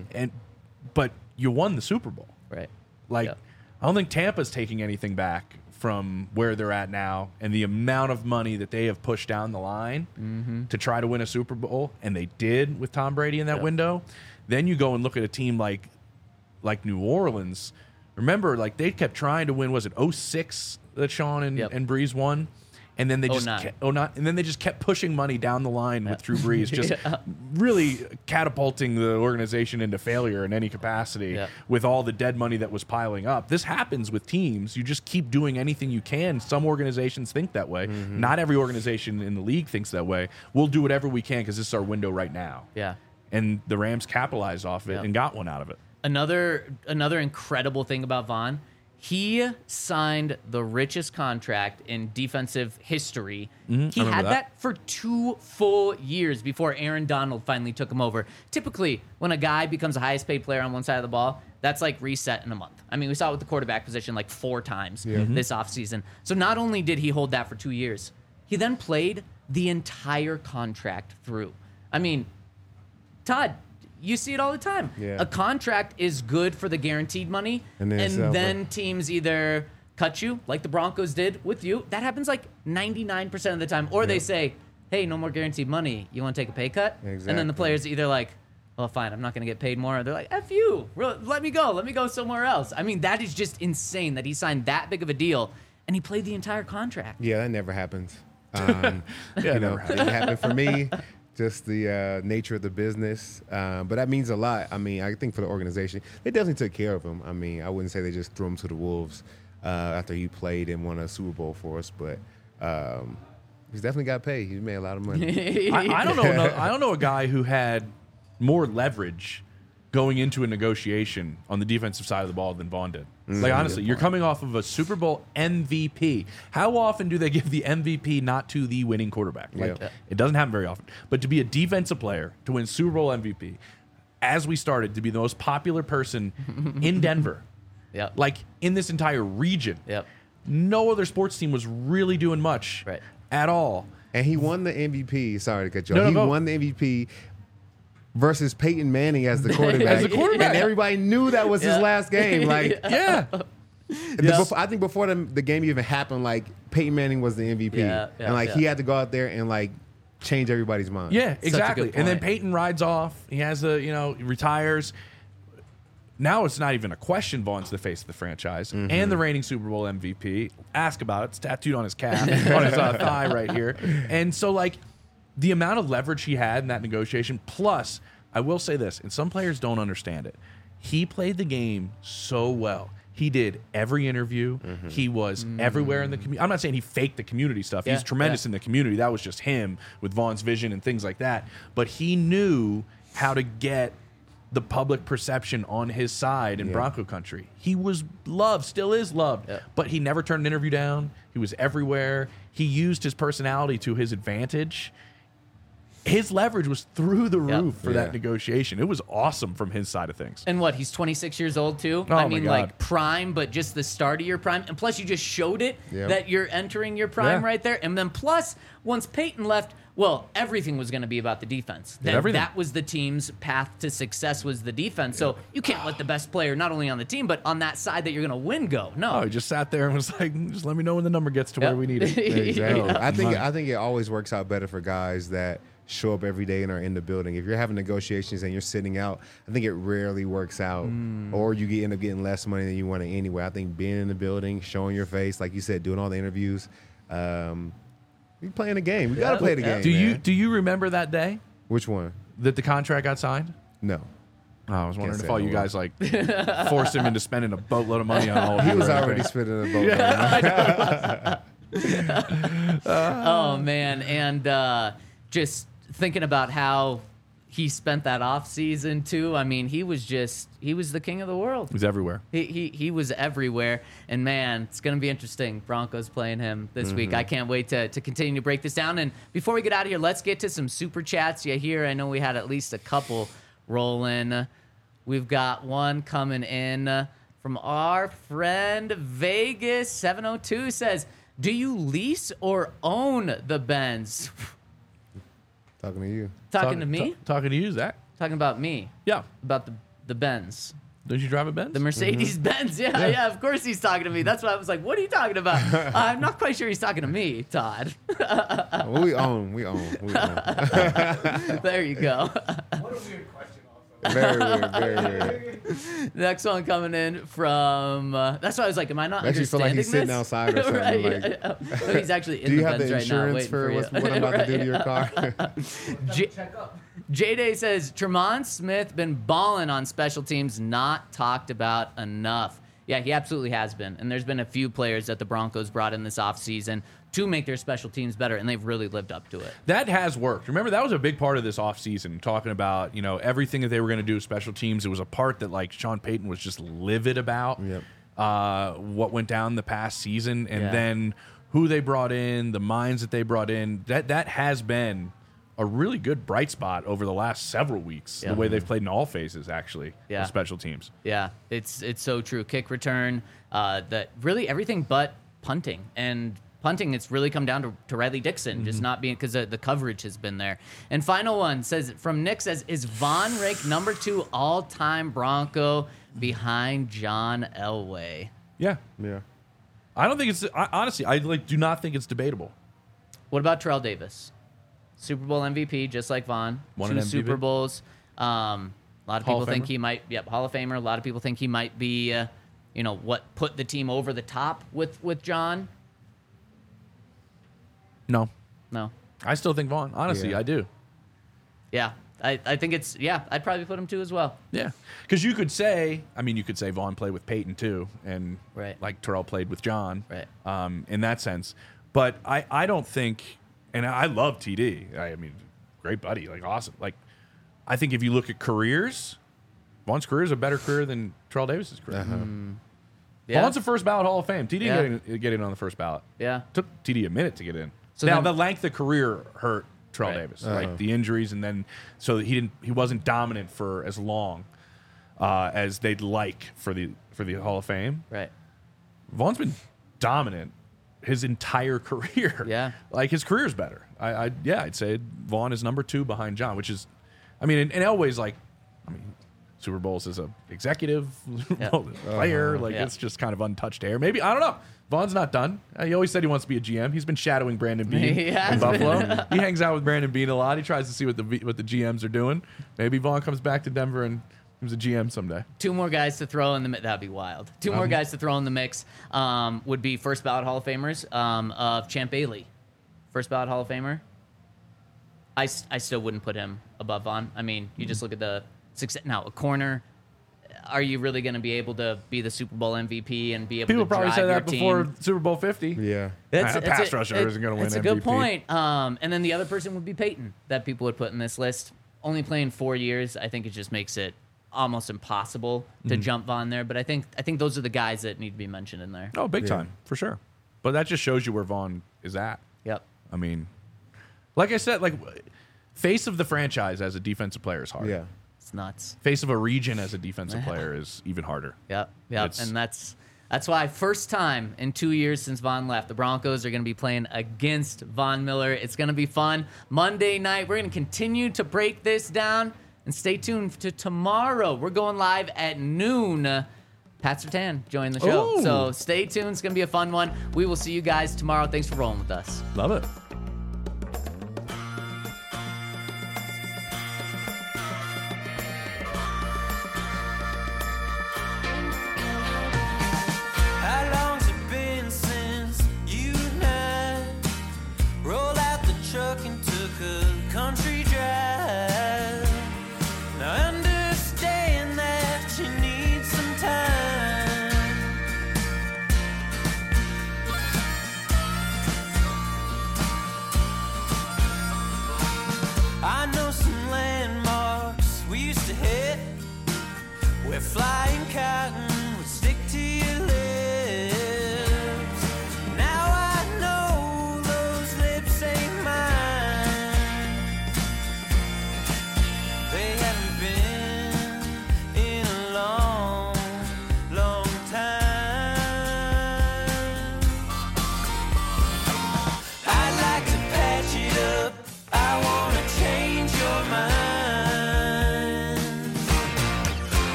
But you won the Super Bowl. Right. Like, Yep. I don't think Tampa's taking anything back from where they're at now and the amount of money that they have pushed down the line to try to win a Super Bowl, and they did with Tom Brady in that window. Then you go and look at a team like New Orleans. Remember, like, they kept trying to win. Was it 06 that Sean and Breeze won? And then they just 09. and then they just kept pushing money down the line with Drew Brees, just really catapulting the organization into failure in any capacity with all the dead money that was piling up. This happens with teams. You just keep doing anything you can. Some organizations think that way. Not every organization in the league thinks that way. We'll do whatever we can because this is our window right now. Yeah. And the Rams capitalized off it and got one out of it. Another incredible thing about Vaughn, he signed the richest contract in defensive history. He had that for 2 full years before Aaron Donald finally took him over. Typically, when a guy becomes the highest paid player on one side of the ball, that's like reset in a month. I mean, we saw it with the quarterback position like 4 times this offseason. So not only did he hold that for 2 years, he then played the entire contract through. I mean, Todd, you see it all the time. Yeah. A contract is good for the guaranteed money, And and then then teams either cut you, like the Broncos did with you. That happens like 99% of the time. Or they say, hey, no more guaranteed money. You want to take a pay cut? And then the Exactly. players either like, well, fine, I'm not going to get paid more. Or they're like, F you. Let me go. Let me go somewhere else. I mean, that is just insane that he signed that big of a deal, and he played the entire contract. Yeah, that never happens. it You know, never it didn't happen for me. Just the nature of the business, but that means a lot. I mean, I think for the organization, they definitely took care of him. I mean, I wouldn't say they just threw him to the wolves after he played and won a Super Bowl for us, but he's definitely got paid. He made a lot of money. I don't know. I don't know a guy who had more leverage going into a negotiation on the defensive side of the ball than Vaughn did. Like, honestly, you're coming off of a Super Bowl MVP. How often do they give the MVP not to the winning quarterback? Like, it doesn't happen very often. But to be a defensive player, to win Super Bowl MVP, as we started, to be the most popular person in Denver, Yep. like in this entire region, Yep. no other sports team was really doing much Right. at all. And he won the MVP. Sorry to cut you No, off. no, He go. won the MVP versus Peyton Manning as the quarterback. As the quarterback. And everybody knew that was his last game. Like, Yeah. I think before the game even happened, like Peyton Manning was the MVP, and like he had to go out there and like change everybody's mind. Yeah, a exactly. good And then point. Peyton rides off. He has he retires. Now it's not even a question. Vaughn's the face of the franchise and the reigning Super Bowl MVP. Ask about it. It's tattooed on his calf, on his thigh right here. And so, like, the amount of leverage he had in that negotiation, plus, I will say this, and some players don't understand it. He played the game so well. He did every interview. He was everywhere in the community. I'm not saying he faked the community stuff. He's tremendous in the community. That was just him with Vaughn's vision and things like that. But he knew how to get the public perception on his side in Bronco country. He was loved, still is loved, but he never turned an interview down. He was everywhere. He used his personality to his advantage. His leverage was through the roof for that negotiation. It was awesome from his side of things. And what, he's 26 years old too? Oh, I mean, my God. like prime, but just the start of your prime. And plus, you just showed it that you're entering your prime right there. And then plus, once Peyton left, well, everything was going to be about the defense. That was the team's path to success, was the defense. So you can't let the best player, not only on the team, but on that side that you're going to win, go. No. Oh, he just sat there and was like, just let me know when the number gets to where we need it. Exactly. I think it always works out better for guys that show up every day and are in the building. If you're having negotiations and you're sitting out, I think it rarely works out, or you end up getting less money than you want to anyway. I think being in the building, showing your face, like you said, doing all the interviews, we playing the game. We got to play the game. Do you remember that day Which one? that the contract got signed? No. Oh, I was wondering say if all no you one. guys like forced him into spending a boatload of money on all. He was already spending a boat. Oh, man. And just thinking about how he spent that off season too. I mean, he was the king of the world. He was everywhere. He was everywhere. And man, it's going to be interesting. Broncos playing him this week. I can't wait to continue to break this down. And before we get out of here, let's get to some super chats. I know we had at least a couple rolling. We've got one coming in from our friend Vegas 702 says, do you lease or own the Benz? Talking to you. Talking to me? Talking to you, Zach. Talking about me. Yeah. About the Benz. Don't you drive a Benz? The Mercedes Benz. Yeah, of course he's talking to me. That's why I was like, what are you talking about? I'm not quite sure he's talking to me, Todd. Well, we own. There you go. What a weird question also. Very weird. Very weird. Next one coming in from. That's why I was like, am I not Makes you feel like he's understanding sitting this? outside or something. Right, Like, yeah. No, he's actually in do you the have Benz the right now insurance waiting for you. what I'm about to do to your car? J- Check up. J-Day says, Tremont Smith been balling on special teams, not talked about enough. Yeah, he absolutely has been. And there's been a few players that the Broncos brought in this offseason to make their special teams better, and they've really lived up to it. That has worked. Remember, that was a big part of this offseason, talking about, everything that they were going to do with special teams. It was a part that, like, Sean Payton was just livid about what went down the past season, and then who they brought in, the minds that they brought in. That has been a really good bright spot over the last several weeks, the way they've played in all phases, actually, with special teams. Yeah, it's so true. Kick return, that really everything but punting. And punting, it's really come down to Riley Dixon, just not being, because the coverage has been there. And final one says, from Nick says, is Von ranked number 2 all-time Bronco behind John Elway? Yeah. Yeah. I don't think it's, honestly, I do not think it's debatable. What about Terrell Davis? Super Bowl MVP, just like Von. Won 2 an MVP. Super Bowls. A lot of Hall people of think Famer? he might, Hall of Famer. A lot of people think he might be, what put the team over the top with John. No. No. I still think Vaughn. Honestly, Yeah. I do. Yeah, I think it's, I'd probably put him 2 as well. Yeah. Because you could say Vaughn played with Peyton too, and Right. like Terrell played with John. Right. In that sense. But I don't think, and I love TD. I mean, great buddy, like awesome. Like, I think if you look at careers, Vaughn's career is a better career than Terrell Davis's career. Yeah. Vaughn's a first ballot Hall of Fame. TD Yeah. get in on the first ballot. Yeah. Took TD a minute to get in. So now then- the length of career hurt Terrell Right. Davis, like the injuries, and then so he wasn't dominant for as long as they'd like for the Hall of Fame. Right. Vaughn's been dominant his entire career. Yeah. Like his career's better. I'd say Vaughn is number 2 behind John, which is, I mean, and Elway's like, Super Bowls as a executive player, like Yeah. it's just kind of untouched air. Maybe, I don't know. Vaughn's not done. He always said he wants to be a GM. He's been shadowing Brandon Beane He in has Buffalo. He hangs out with Brandon Beane a lot. He tries to see what the GMs are doing. Maybe Vaughn comes back to Denver and becomes a GM someday. 2 more guys to throw in the mix. That'd be wild. 2 more guys to throw in the mix would be first ballot Hall of Famers of Champ Bailey. First ballot Hall of Famer. I still wouldn't put him above Vaughn. I mean, you just look at the success. Now, a corner, are you really going to be able to be the Super Bowl MVP and be able People to probably drive say your that before team? Super Bowl 50. Yeah. A pass rusher isn't going to win That's a MVP. good point. And then the other person would be Peyton that people would put in this list. Only playing 4 years, I think it just makes it almost impossible to jump Vaughn there. But I think those are the guys that need to be mentioned in there. Oh, big time, for sure. But that just shows you where Vaughn is at. Yep. I mean, like I said, like face of the franchise as a defensive player is hard. Yeah. It's nuts. Face of a region as a defensive player is even harder. Yep. It's- And that's why first time in 2 years since Vaughn left, the Broncos are going to be playing against Von Miller. It's going to be fun. Monday night, we're going to continue to break this down. And stay tuned to tomorrow. We're going live at noon. Pat Surtain joined the show. Ooh. So stay tuned. It's going to be a fun one. We will see you guys tomorrow. Thanks for rolling with us. Love it.